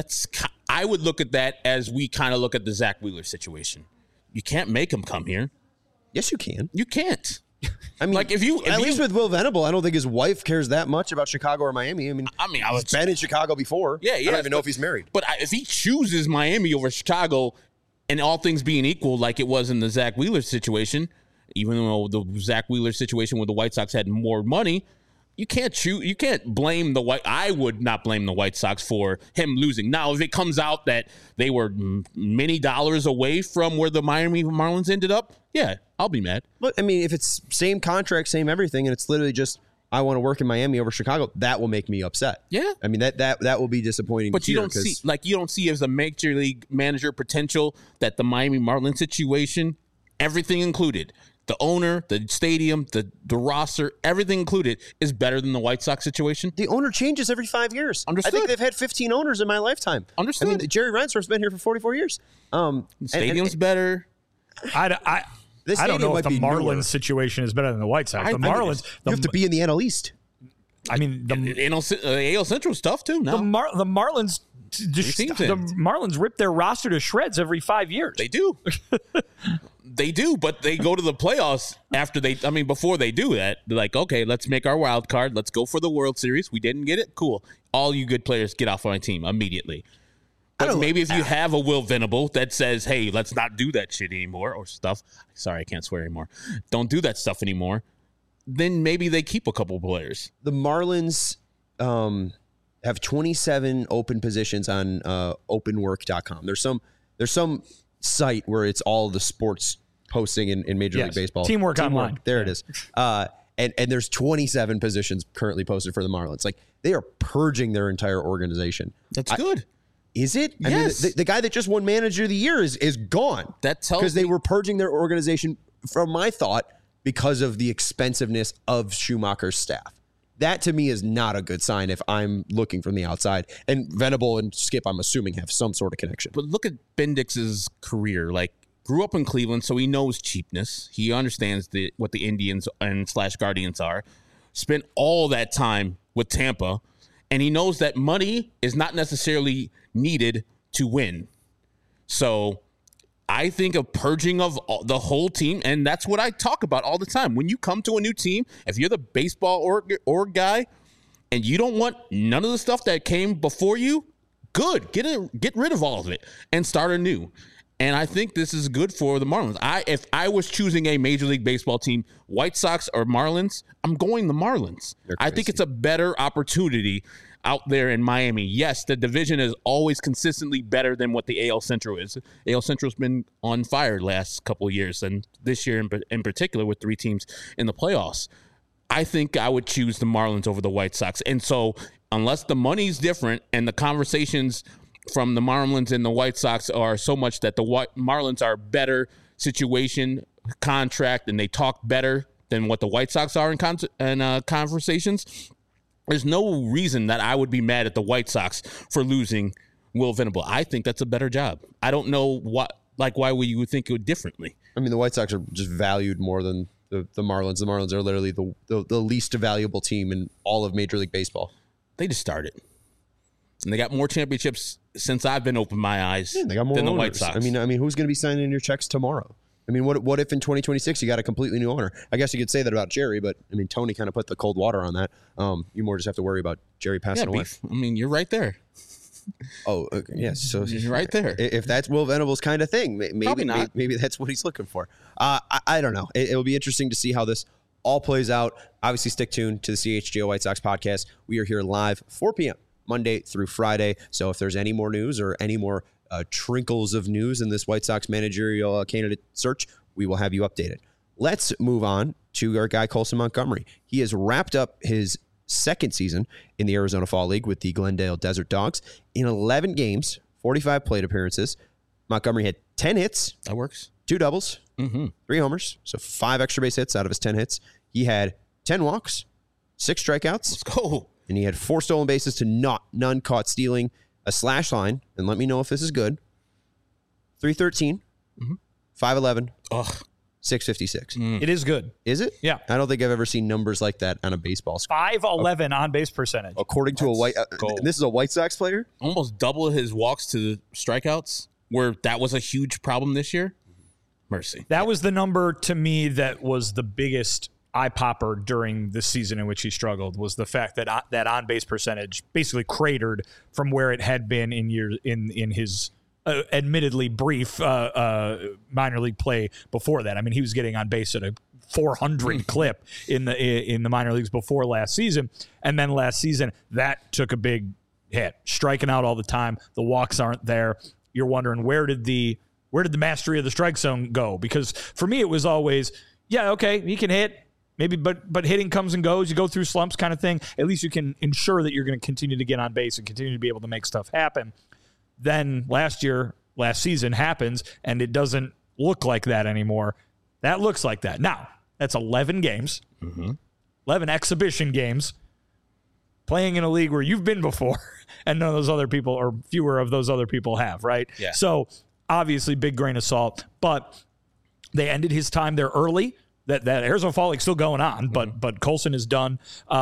I would look at that as we kind of look at the Zach Wheeler situation. You can't make him come here. Yes, you can. You can't. I mean, like if at least with Will Venable, I don't think his wife cares that much about Chicago or Miami. I mean, he's been in Chicago before. Yeah. I don't even know if he's married. But if he chooses Miami over Chicago, and all things being equal, like it was in the Zach Wheeler situation, even though the Zach Wheeler situation where the White Sox had more money, you can't blame I would not blame the White Sox for him losing. Now, if it comes out that they were many dollars away from where the Miami Marlins ended up, yeah, I'll be mad. Look, I mean, if it's same contract, same everything, and it's literally just I want to work in Miami over Chicago, that will make me upset. Yeah, I mean that will be disappointing. But you don't see as a major league manager potential that the Miami Marlins situation, everything included. The owner, the stadium, the roster, everything included is better than the White Sox situation. The owner changes every 5 years. Understood. I think they've had 15 owners in my lifetime. Understood. I mean, Jerry Reinsdorf's been here for 44 years. The stadium's better. I don't know if the Marlins situation is better than the White Sox. The Marlins, you have to be in the NL East. I mean, the AL Central's tough too. Now the Marlins. The Marlins rip their roster to shreds every 5 years. They do. They do, but they go to the playoffs before they do that. They're like, okay, let's make our wild card. Let's go for the World Series. We didn't get it. Cool. All you good players get off my team immediately. But maybe if you have a Will Venable that says, hey, let's not do that shit anymore or stuff. Sorry, I can't swear anymore. Don't do that stuff anymore. Then maybe they keep a couple of players. The Marlins have 27 open positions on openwork.com. There's some site where it's all the sports posting in Major League Baseball. Teamwork Online. There it is. And there's 27 positions currently posted for the Marlins. Like they are purging their entire organization. That's good. Is it? Yes. I mean, the guy that just won Manager of the Year is gone. That tells because they were purging their organization, from my thought, because of the expensiveness of Schumacher's staff. That to me is not a good sign if I'm looking from the outside. And Venable and Skip, I'm assuming, have some sort of connection. But look at Bendix's career. Like, grew up in Cleveland, so he knows cheapness. He understands what the Indians and / Guardians are. Spent all that time with Tampa, and he knows that money is not necessarily needed to win. So I think of purging of the whole team, and that's what I talk about all the time. When you come to a new team, if you're the baseball org guy and you don't want none of the stuff that came before you, good. Get rid of all of it and start anew. And I think this is good for the Marlins. If I was choosing a Major League Baseball team, White Sox or Marlins, I'm going the Marlins. I think it's a better opportunity out there in Miami. Yes, the division is always consistently better than what the AL Central is. AL Central's been on fire last couple of years, and this year in particular with 3 teams in the playoffs. I think I would choose the Marlins over the White Sox. And so unless the money's different and the conversations from the Marlins and the White Sox are so much that the Marlins are better situation, contract, and they talk better than what the White Sox are in conversations, there's no reason that I would be mad at the White Sox for losing Will Venable. I think that's a better job. I don't know why you would think it would differently. I mean, the White Sox are just valued more than the Marlins. The Marlins are literally the least valuable team in all of Major League Baseball. They just started. And they got more championships since I've been open my eyes they got more than the owners. White Sox. I mean, who's going to be signing your checks tomorrow? I mean, what if in 2026 you got a completely new owner? I guess you could say that about Jerry, but I mean, Tony kind of put the cold water on that. You more just have to worry about Jerry passing away. Beef. I mean, you're right there. Oh, okay. Yes. So you're right there. If that's Will Venable's kind of thing, maybe that's what he's looking for. I don't know. It will be interesting to see how this all plays out. Obviously, stick tuned to the CHGO White Sox podcast. We are here live 4 p.m. Monday through Friday. So if there's any more news or any more trinkles of news in this White Sox managerial candidate search, we will have you updated. Let's move on to our guy, Colson Montgomery. He has wrapped up his second season in the Arizona Fall League with the Glendale Desert Dogs. In 11 games, 45 plate appearances, Montgomery had 10 hits. That works. 2 doubles, 3 homers, so 5 extra base hits out of his 10 hits. He had 10 walks, 6 strikeouts. Let's go. And he had 4 stolen bases to none caught stealing, a slash line, and let me know if this is good, 313, 511, 656. It is good. Is it? Yeah. I don't think I've ever seen numbers like that on a baseball score. 511 on base percentage. According to this is a White Sox player? Almost double his walks to the strikeouts, where that was a huge problem this year. Mercy. That was the number to me that was the biggest eye popper during the season in which he struggled, was the fact that that on base percentage basically cratered from where it had been in his admittedly brief minor league play before that. I mean, he was getting on base at a 400 clip in the minor leagues before last season, and then last season that took a big hit, striking out all the time. The walks aren't there. You're wondering where did the mastery of the strike zone go? Because for me, it was always, yeah, okay, he can hit. Maybe, but hitting comes and goes. You go through slumps kind of thing. At least you can ensure that you're going to continue to get on base and continue to be able to make stuff happen. Then last season happens, and it doesn't look like that anymore. That looks like that. Now, that's 11 games, 11 exhibition games, playing in a league where you've been before, and none of those other people, or fewer of those other people have, right? Yeah. So, obviously, big grain of salt. But they ended his time there early. That Arizona Fall League's still going on, but Colson is done.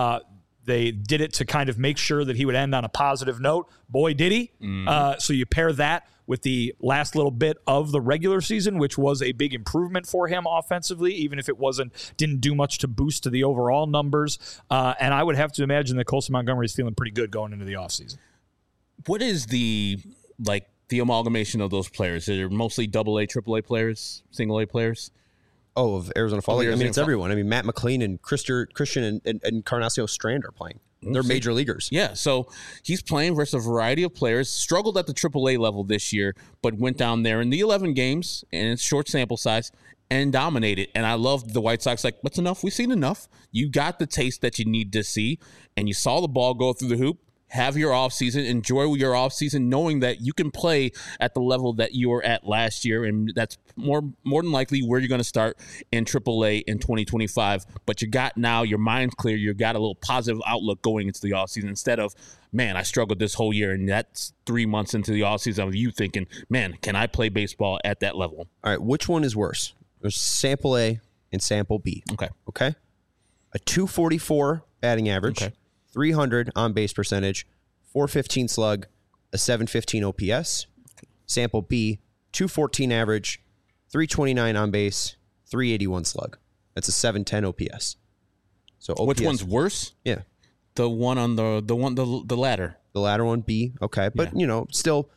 They did it to kind of make sure that he would end on a positive note. Boy, did he. So you pair that with the last little bit of the regular season, which was a big improvement for him offensively, even if it didn't do much to boost to the overall numbers. And I would have to imagine that Colson Montgomery is feeling pretty good going into the offseason. What is the amalgamation of those players? They're mostly AA, AAA players, single A players? Oh, of Arizona Fall League. I mean, it's everyone. I mean, Matt McLean and Christian and Encarnacio Strand are playing. They're major leaguers. Yeah, so he's playing versus a variety of players. Struggled at the AAA level this year, but went down there in the 11 games, and it's short sample size, and dominated. And I love the White Sox. Like, that's enough. We've seen enough. You got the taste that you need to see, and you saw the ball go through the hoop. Have your offseason, enjoy your offseason, knowing that you can play at the level that you were at last year, and that's more than likely where you're going to start in AAA in 2025. But you got now your mind's clear. You got a little positive outlook going into the offseason instead of, man, I struggled this whole year, and that's 3 months into the offseason of you thinking, man, can I play baseball at that level? All right, which one is worse? There's sample A and sample B. Okay. A 244 batting average. Okay. 300 on base percentage, 415 slug, a 715 OPS. Sample B, 214 average, 329 on base, 381 slug. That's a 710 OPS. So OPS, which one's worse? Yeah, the one on the ladder. The ladder one, B. Okay, but still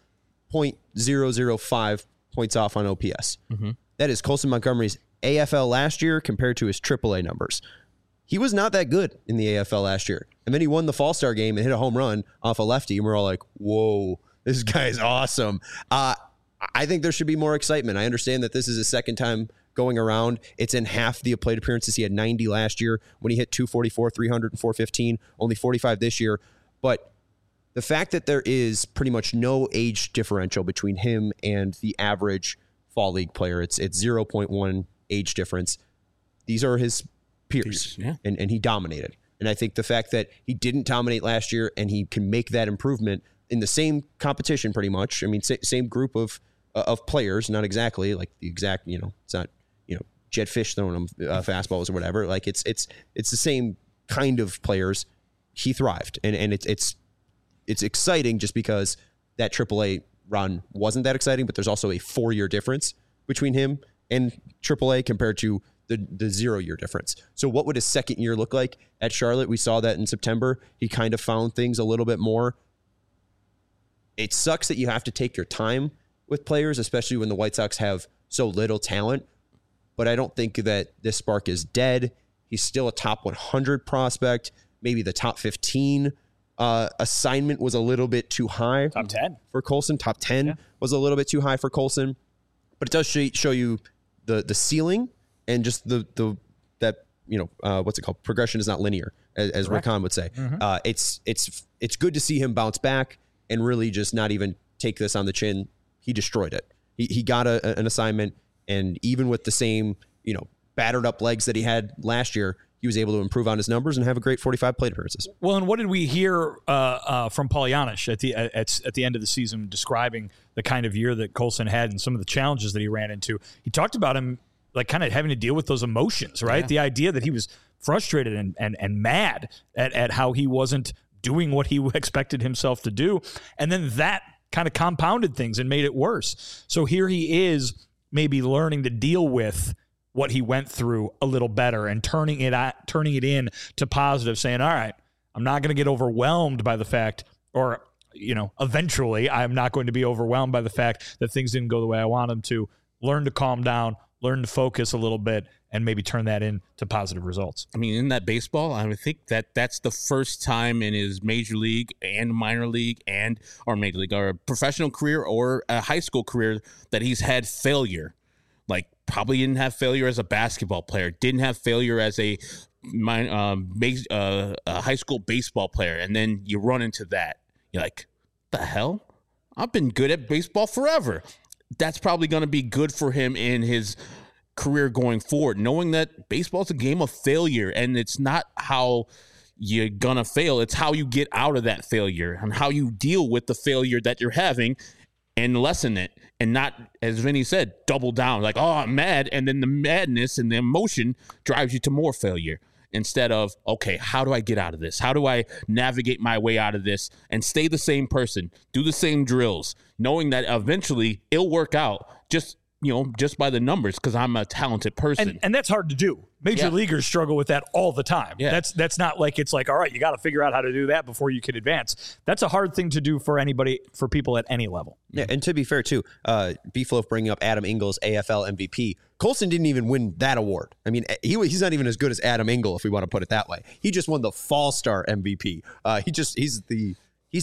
0.005 points off on OPS. That is Colson Montgomery's AFL last year compared to his AAA numbers. He was not that good in the AFL last year. And then he won the Fall-Star game and hit a home run off a lefty. And we're all like, whoa, this guy's awesome. I think there should be more excitement. I understand that this is his second time going around. It's in half the plate appearances. He had 90 last year when he hit 244, 300, and 415, only 45 this year. But the fact that there is pretty much no age differential between him and the average fall league player, it's 0.1 age difference. These are his peers, and he dominated. And I think the fact that he didn't dominate last year and he can make that improvement in the same competition pretty much. I mean, same group of players, not exactly like the exact, it's not, Jed Fish throwing him fastballs or whatever. Like it's the same kind of players. He thrived. And it's exciting just because that AAA run wasn't that exciting, but there's also a 4-year difference between him and AAA compared to the 0-year difference. So what would his second year look like at Charlotte? We saw that in September. He kind of found things a little bit more. It sucks that you have to take your time with players, especially when the White Sox have so little talent. But I don't think that this spark is dead. He's still a top 100 prospect, maybe the top 15. Assignment was a little bit too high. Top 10 for Colson. Top 10 was a little bit too high for Colson. But it does show you the ceiling and just what's it called? Progression is not linear, as Rick Hahn would say. It's good to see him bounce back and really just not even take this on the chin. He destroyed it. He got an assignment, and even with the same, battered up legs that he had last year, he was able to improve on his numbers and have a great 45 plate appearances. Well, and what did we hear from Polyanish at the end of the season describing the kind of year that Colson had and some of the challenges that he ran into? He talked about him like kind of having to deal with those emotions, right? Yeah. The idea that he was frustrated and mad at how he wasn't doing what he expected himself to do. And then that kind of compounded things and made it worse. So here he is maybe learning to deal with what he went through a little better and turning it in to positive, saying, all right, I'm not going to get overwhelmed by the fact, or, eventually I'm not going to be overwhelmed by the fact that things didn't go the way I want them to. Learn to calm down, learn to focus a little bit, and maybe turn that into positive results. I mean, in that baseball, I would think that's the first time in his major league and minor league or major league or professional career or a high school career that he's had failure. Like, probably didn't have failure as a basketball player, didn't have failure as a high school baseball player, and then you run into that. You're like, the hell? I've been good at baseball forever. That's probably going to be good for him in his career going forward, knowing that baseball is a game of failure, and it's not how you're going to fail. It's how you get out of that failure and how you deal with the failure that you're having and lessen it, and not, as Vinny said, double down. Like, oh, I'm mad, and then the madness and the emotion drives you to more failure. Instead of, okay, how do I get out of this? How do I navigate my way out of this and stay the same person, do the same drills, knowing that eventually it'll work out just by the numbers because I'm a talented person. And that's hard to do. Major leaguers struggle with that all the time. Yeah. That's not like it's like, all right, you got to figure out how to do that before you can advance. That's a hard thing to do for people at any level. Yeah, and to be fair, too, Beefloaf bringing up Adam Engels, AFL MVP. Colson didn't even win that award. I mean, he's not even as good as Adam Engel, if we want to put it that way. He just won the Fall Star MVP. He's the who's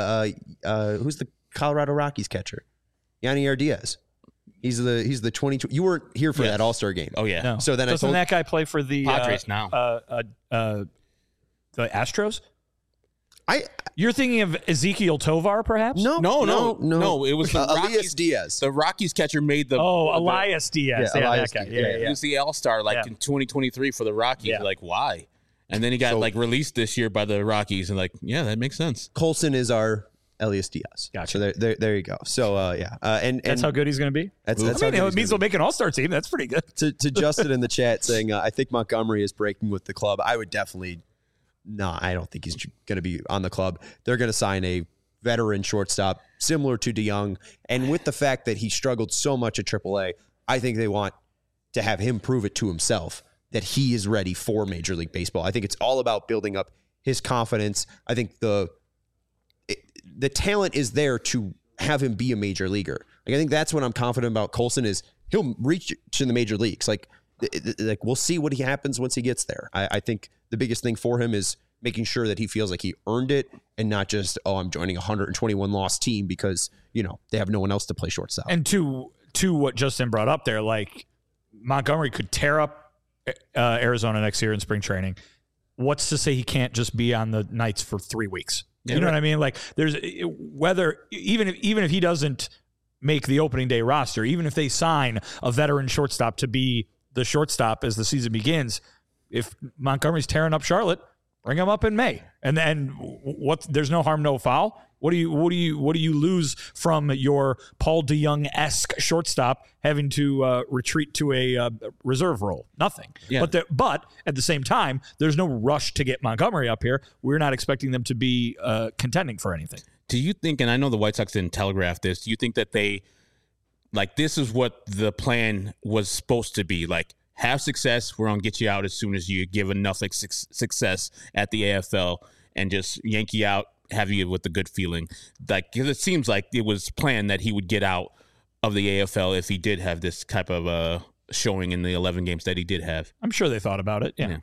the Colorado Rockies catcher? Yanier Diaz. He's the 22. You weren't here for that All-Star game. Oh yeah. No. So then doesn't that guy play for the Padres now? The Astros? You're thinking of Ezekiel Tovar, perhaps? No. It was the Elias Diaz. The Rockies catcher made the Elias Diaz. Yeah, Elias that guy. Diaz. Yeah. He was the All-Star in 2023 for the Rockies. Yeah. Like, why? And then he got released this year by the Rockies, and that makes sense. Colson is our Elias Diaz. Gotcha. So there you go. So and that's how good he's going to be. That's it means he'll make an All-Star team. That's pretty good. To Justin in the chat saying, I think Montgomery is breaking with the club. I would definitely. No, I don't think he's going to be on the club. They're going to sign a veteran shortstop similar to DeYoung. And with the fact that he struggled so much at AAA, I think they want to have him prove it to himself that he is ready for Major League Baseball. I think it's all about building up his confidence. I think the talent is there to have him be a major leaguer. Like, I think that's what I'm confident about Colson is he'll reach to the major leagues. Like we'll see what happens once he gets there. I think the biggest thing for him is making sure that he feels like he earned it and not just, I'm joining a 121 loss team because, they have no one else to play shortstop. And to what Justin brought up there, like Montgomery could tear up Arizona next year in spring training. What's to say he can't just be on the Knights for 3 weeks? You know what I mean? Like, there's whether even if he doesn't make the opening day roster, even if they sign a veteran shortstop to be the shortstop as the season begins, if Montgomery's tearing up Charlotte, bring him up in May. And then there's no harm, no foul. What do you lose from your Paul DeJong-esque shortstop having to retreat to a reserve role? Nothing. Yeah. But at the same time, there's no rush to get Montgomery up here. We're not expecting them to be contending for anything. Do you think, and I know the White Sox didn't telegraph this, do you think that this is what the plan was supposed to be? Like, have success, we're going to get you out as soon as you give enough success at the AFL and just yank you out, have you with a good feeling. Like, because it seems like it was planned that he would get out of the AFL if he did have this type of showing in the 11 games that he did have. I'm sure they thought about it. Yeah.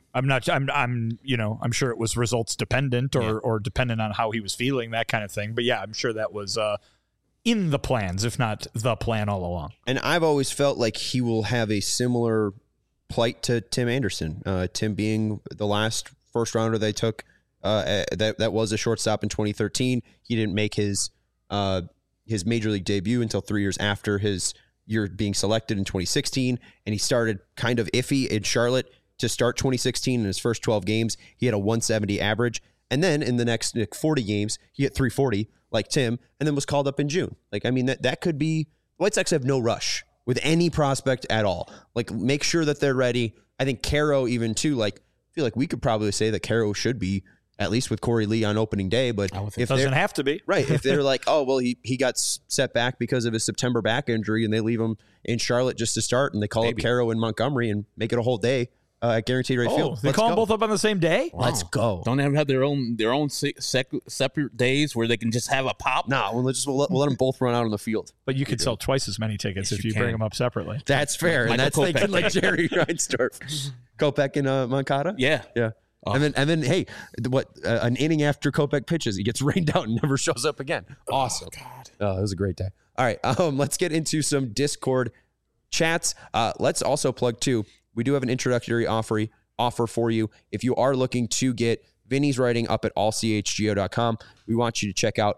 I'm sure it was results dependent or dependent on how he was feeling, that kind of thing. But yeah, I'm sure that was in the plans, if not the plan all along. And I've always felt like he will have a similar plight to Tim Anderson. Tim being the last first rounder they took, that was a shortstop in 2013. He didn't make his major league debut until 3 years after his year being selected in 2016, and he started kind of iffy in Charlotte to start 2016. In his first 12 games, he had a 170 average, and then in the next 40 games, he hit 340 like Tim, and then was called up in June. Like, I mean, that could be. White Sox have no rush with any prospect at all. Like, make sure that they're ready. I think Caro even too. Like, I feel like we could probably say that Caro should be at least with Corey Lee on opening day, but if it doesn't have to be right, if they're like, oh well, he got set back because of his September back injury, and they leave him in Charlotte just to start, and they call up Caro and Montgomery and make it a whole day at Guaranteed Rate Field. They call them both up on the same day. Wow. Let's go. Don't they have their own separate days where they can just have a pop? No, we'll let them both run out on the field. But you could sell twice as many tickets if you bring them up separately. That's fair, and that's thinking like Jerry Reinsdorf, Kopech and Moncada. Yeah. Oh. And then, hey, an inning after Kopech pitches, he gets rained out and never shows up again. Awesome. Oh, God. Oh, it was a great day. All right, let's get into some Discord chats. Let's also plug, too, we do have an introductory offer for you. If you are looking to get Vinny's writing up at allchgo.com, we want you to check out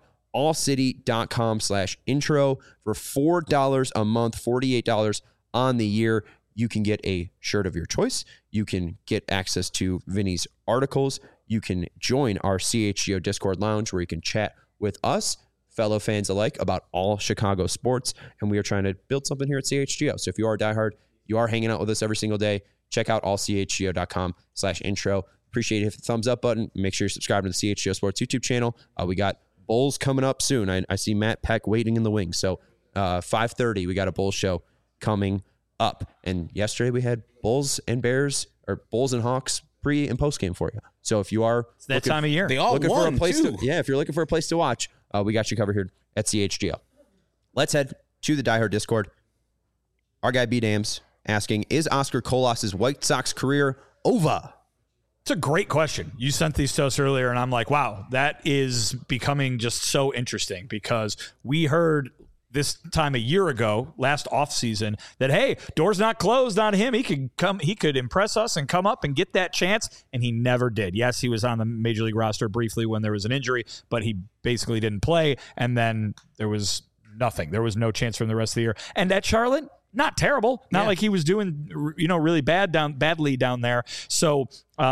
allcity.com/intro for $4 a month, $48 on the year. You can get a shirt of your choice. You can get access to Vinny's articles. You can join our CHGO Discord lounge where you can chat with us, fellow fans alike, about all Chicago sports. And we are trying to build something here at CHGO. So if you are a diehard, you are hanging out with us every single day, check out allchgo.com/intro. Appreciate it. Hit the thumbs up button. Make sure you're subscribed to the CHGO Sports YouTube channel. We got Bulls coming up soon. I see Matt Peck waiting in the wings. So 5:30, we got a Bulls show coming up. And yesterday we had Bulls and Bears, or Bulls and Hawks pre and post game for you. So if you are it's that time of year, they all looking won, for a place too. if you're looking for a place to watch, we got you covered here at CHGO. Let's head to the Die Hard Discord. Our guy B Dams asking, is Oscar Colas's White Sox career over? It's a great question. You sent these to us earlier, and I'm like, wow, that is becoming just so interesting, because we heard this time a year ago, last offseason, that, hey, door's not closed on him. He could impress us and come up and get that chance, and he never did. Yes, he was on the Major League roster briefly when there was an injury, but he basically didn't play, and then there was nothing. There was no chance from the rest of the year. And at Charlotte, not terrible. Not like he was doing, really badly down there. So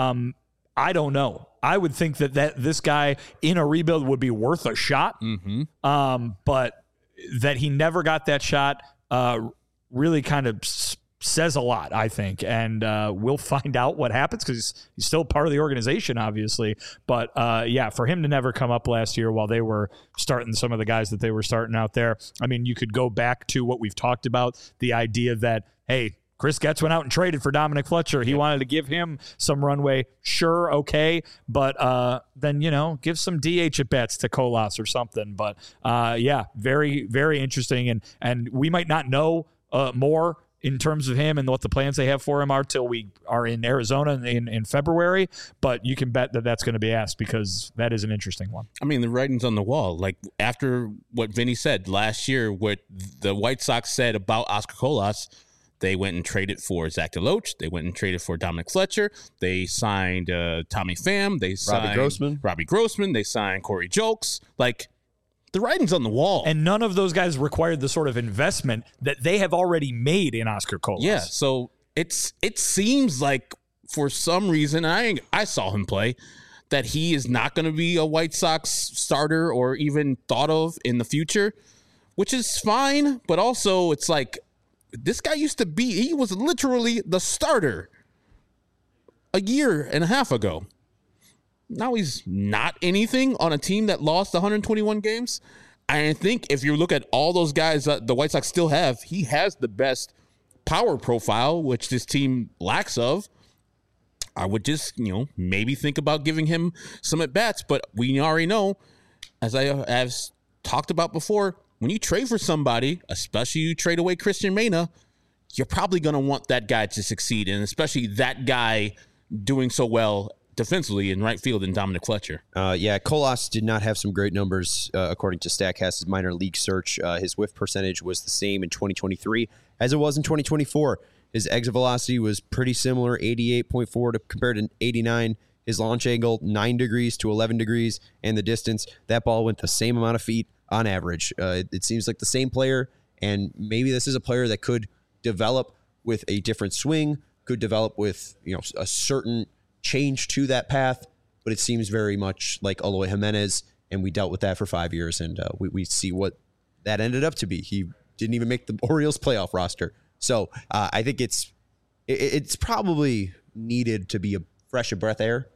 I don't know. I would think that this guy in a rebuild would be worth a shot. Mm-hmm. But that he never got that shot really kind of says a lot, I think. And we'll find out what happens, because he's still part of the organization, obviously. But, for him to never come up last year while they were starting some of the guys that they were starting out there, I mean, you could go back to what we've talked about, the idea that, hey, Chris Getz went out and traded for Dominic Fletcher. He wanted to give him some runway. Sure, okay. But then, give some DH at bats to Colas or something. But, very, very interesting. And we might not know more in terms of him and what the plans they have for him are till we are in Arizona in February. But you can bet that that's going to be asked, because that is an interesting one. I mean, the writing's on the wall. Like, after what Vinny said last year, what the White Sox said about Oscar Colas, They went and traded for Zach DeLoach. They went and traded for Dominic Fletcher. They signed Tommy Pham. They signed Robbie Grossman. They signed Corey Jolks. Like, the writing's on the wall. And none of those guys required the sort of investment that they have already made in Oscar Colas. Yeah, so it seems like for some reason, I saw him play, that he is not going to be a White Sox starter or even thought of in the future, which is fine. But also, it's like, this guy he was literally the starter a year and a half ago. Now he's not anything on a team that lost 121 games. I think if you look at all those guys that the White Sox still have, he has the best power profile, which this team lacks of. I would just, maybe think about giving him some at-bats. But we already know, as I have talked about before, when you trade for somebody, especially you trade away Christian Mena, you're probably going to want that guy to succeed, and especially that guy doing so well defensively in right field in Dominic Fletcher. Colas did not have some great numbers according to StatCast's minor league search. His whiff percentage was the same in 2023 as it was in 2024. His exit velocity was pretty similar, 88.4 compared to 89. His launch angle, 9 degrees to 11 degrees, and the distance, that ball went the same amount of feet on average. It seems like the same player, and maybe this is a player that could develop with a different swing, could develop with a certain change to that path, but it seems very much like Eloy Jimenez, and we dealt with that for 5 years, and we see what that ended up to be. He didn't even make the Orioles playoff roster. So I think it's probably needed to be a fresh of breath air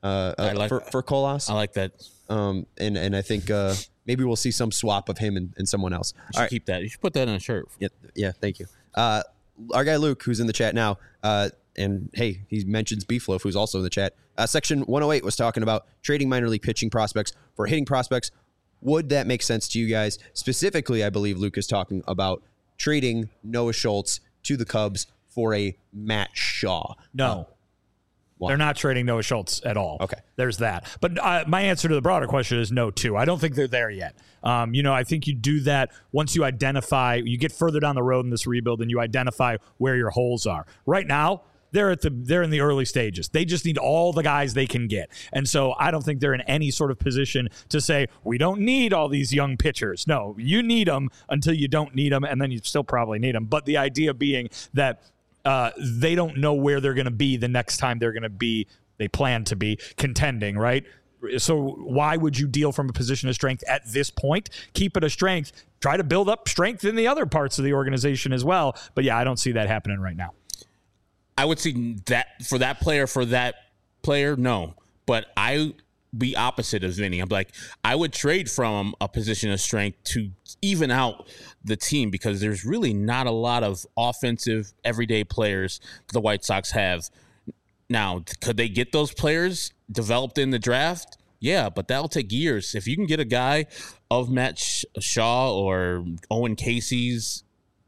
for Colas. I like that. And I think maybe we'll see some swap of him and someone else. You should keep that. You should put that in a shirt. Yeah, thank you. Our guy Luke, who's in the chat now, and hey, he mentions Beefloaf, who's also in the chat. Section 108 was talking about trading minor league pitching prospects for hitting prospects. Would that make sense to you guys? Specifically, I believe Luke is talking about trading Noah Schultz to the Cubs for a Matt Shaw. No. They're not trading Noah Schultz at all. Okay. There's that. But my answer to the broader question is no, too. I don't think they're there yet. I think you do that once you you get further down the road in this rebuild and you identify where your holes are. Right now, they're in the early stages. They just need all the guys they can get. And so I don't think they're in any sort of position to say, we don't need all these young pitchers. No, you need them until you don't need them, and then you still probably need them. But the idea being that they don't know where they're going to be the next time they plan to be contending, right? So why would you deal from a position of strength at this point? Keep it a strength. Try to build up strength in the other parts of the organization as well. But yeah, I don't see that happening right now. I would see that for that player, no. But I be opposite of Vinny. I'm like, I would trade from a position of strength to even out the team because there's really not a lot of offensive everyday players the White Sox have. Now, could they get those players developed in the draft? Yeah, but that'll take years. If you can get a guy of Matt Shaw or Owen Casey's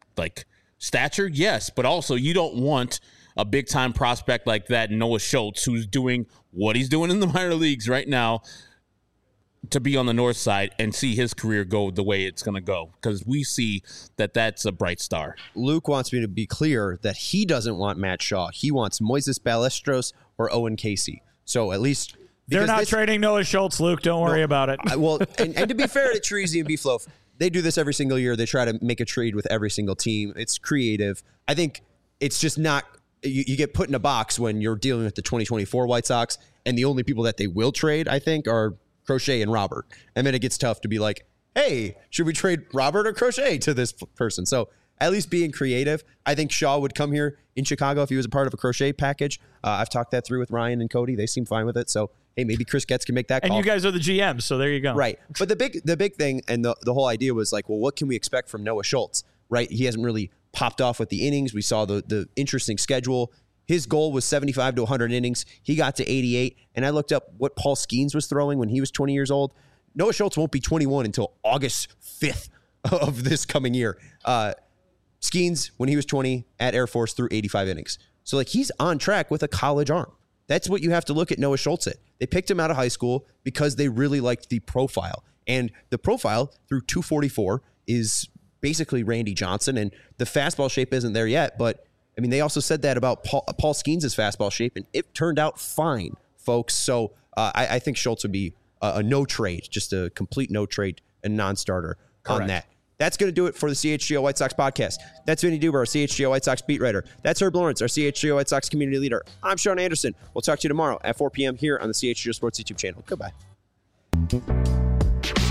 stature, yes, but also you don't want a big-time prospect like that, Noah Schultz, who's doing what he's doing in the minor leagues right now, to be on the north side and see his career go the way it's going to go, because we see that that's a bright star. Luke wants me to be clear that he doesn't want Matt Shaw. He wants Moises Ballesteros or Owen Casey. So at least... They're not trading Noah Schultz, Luke. Don't worry about it. And to be fair to Treasy and Beefloaf, they do this every single year. They try to make a trade with every single team. It's creative. I think it's just not... You get put in a box when you're dealing with the 2024 White Sox, and the only people that they will trade, I think, are Crochet and Robert. And then it gets tough to be like, hey, should we trade Robert or Crochet to this person? So at least being creative. I think Shaw would come here in Chicago if he was a part of a Crochet package. I've talked that through with Ryan and Cody. They seem fine with it. So, hey, maybe Chris Getz can make that call. And you guys are the GMs, so there you go. Right. But the big thing and the whole idea was like, well, what can we expect from Noah Schultz? Right? He hasn't really popped off with the innings. We saw the interesting schedule. His goal was 75 to 100 innings. He got to 88. And I looked up what Paul Skeens was throwing when he was 20 years old. Noah Schultz won't be 21 until August 5th of this coming year. Skeens, when he was 20 at Air Force, threw 85 innings. So he's on track with a college arm. That's what you have to look at Noah Schultz at. They picked him out of high school because they really liked the profile. And the profile through 244 is basically Randy Johnson, and the fastball shape isn't there yet. But I mean, they also said that about Paul Skeens' fastball shape, and it turned out fine, folks. So I think Schultz would be a no trade, just a complete no trade and non-starter on that. That's going to do it for the CHGO White Sox podcast. That's Vinny Duber, our CHGO White Sox beat writer. That's Herb Lawrence, our CHGO White Sox community leader. I'm Sean Anderson. We'll talk to you tomorrow at 4 p.m. here on the CHGO Sports YouTube channel. Goodbye.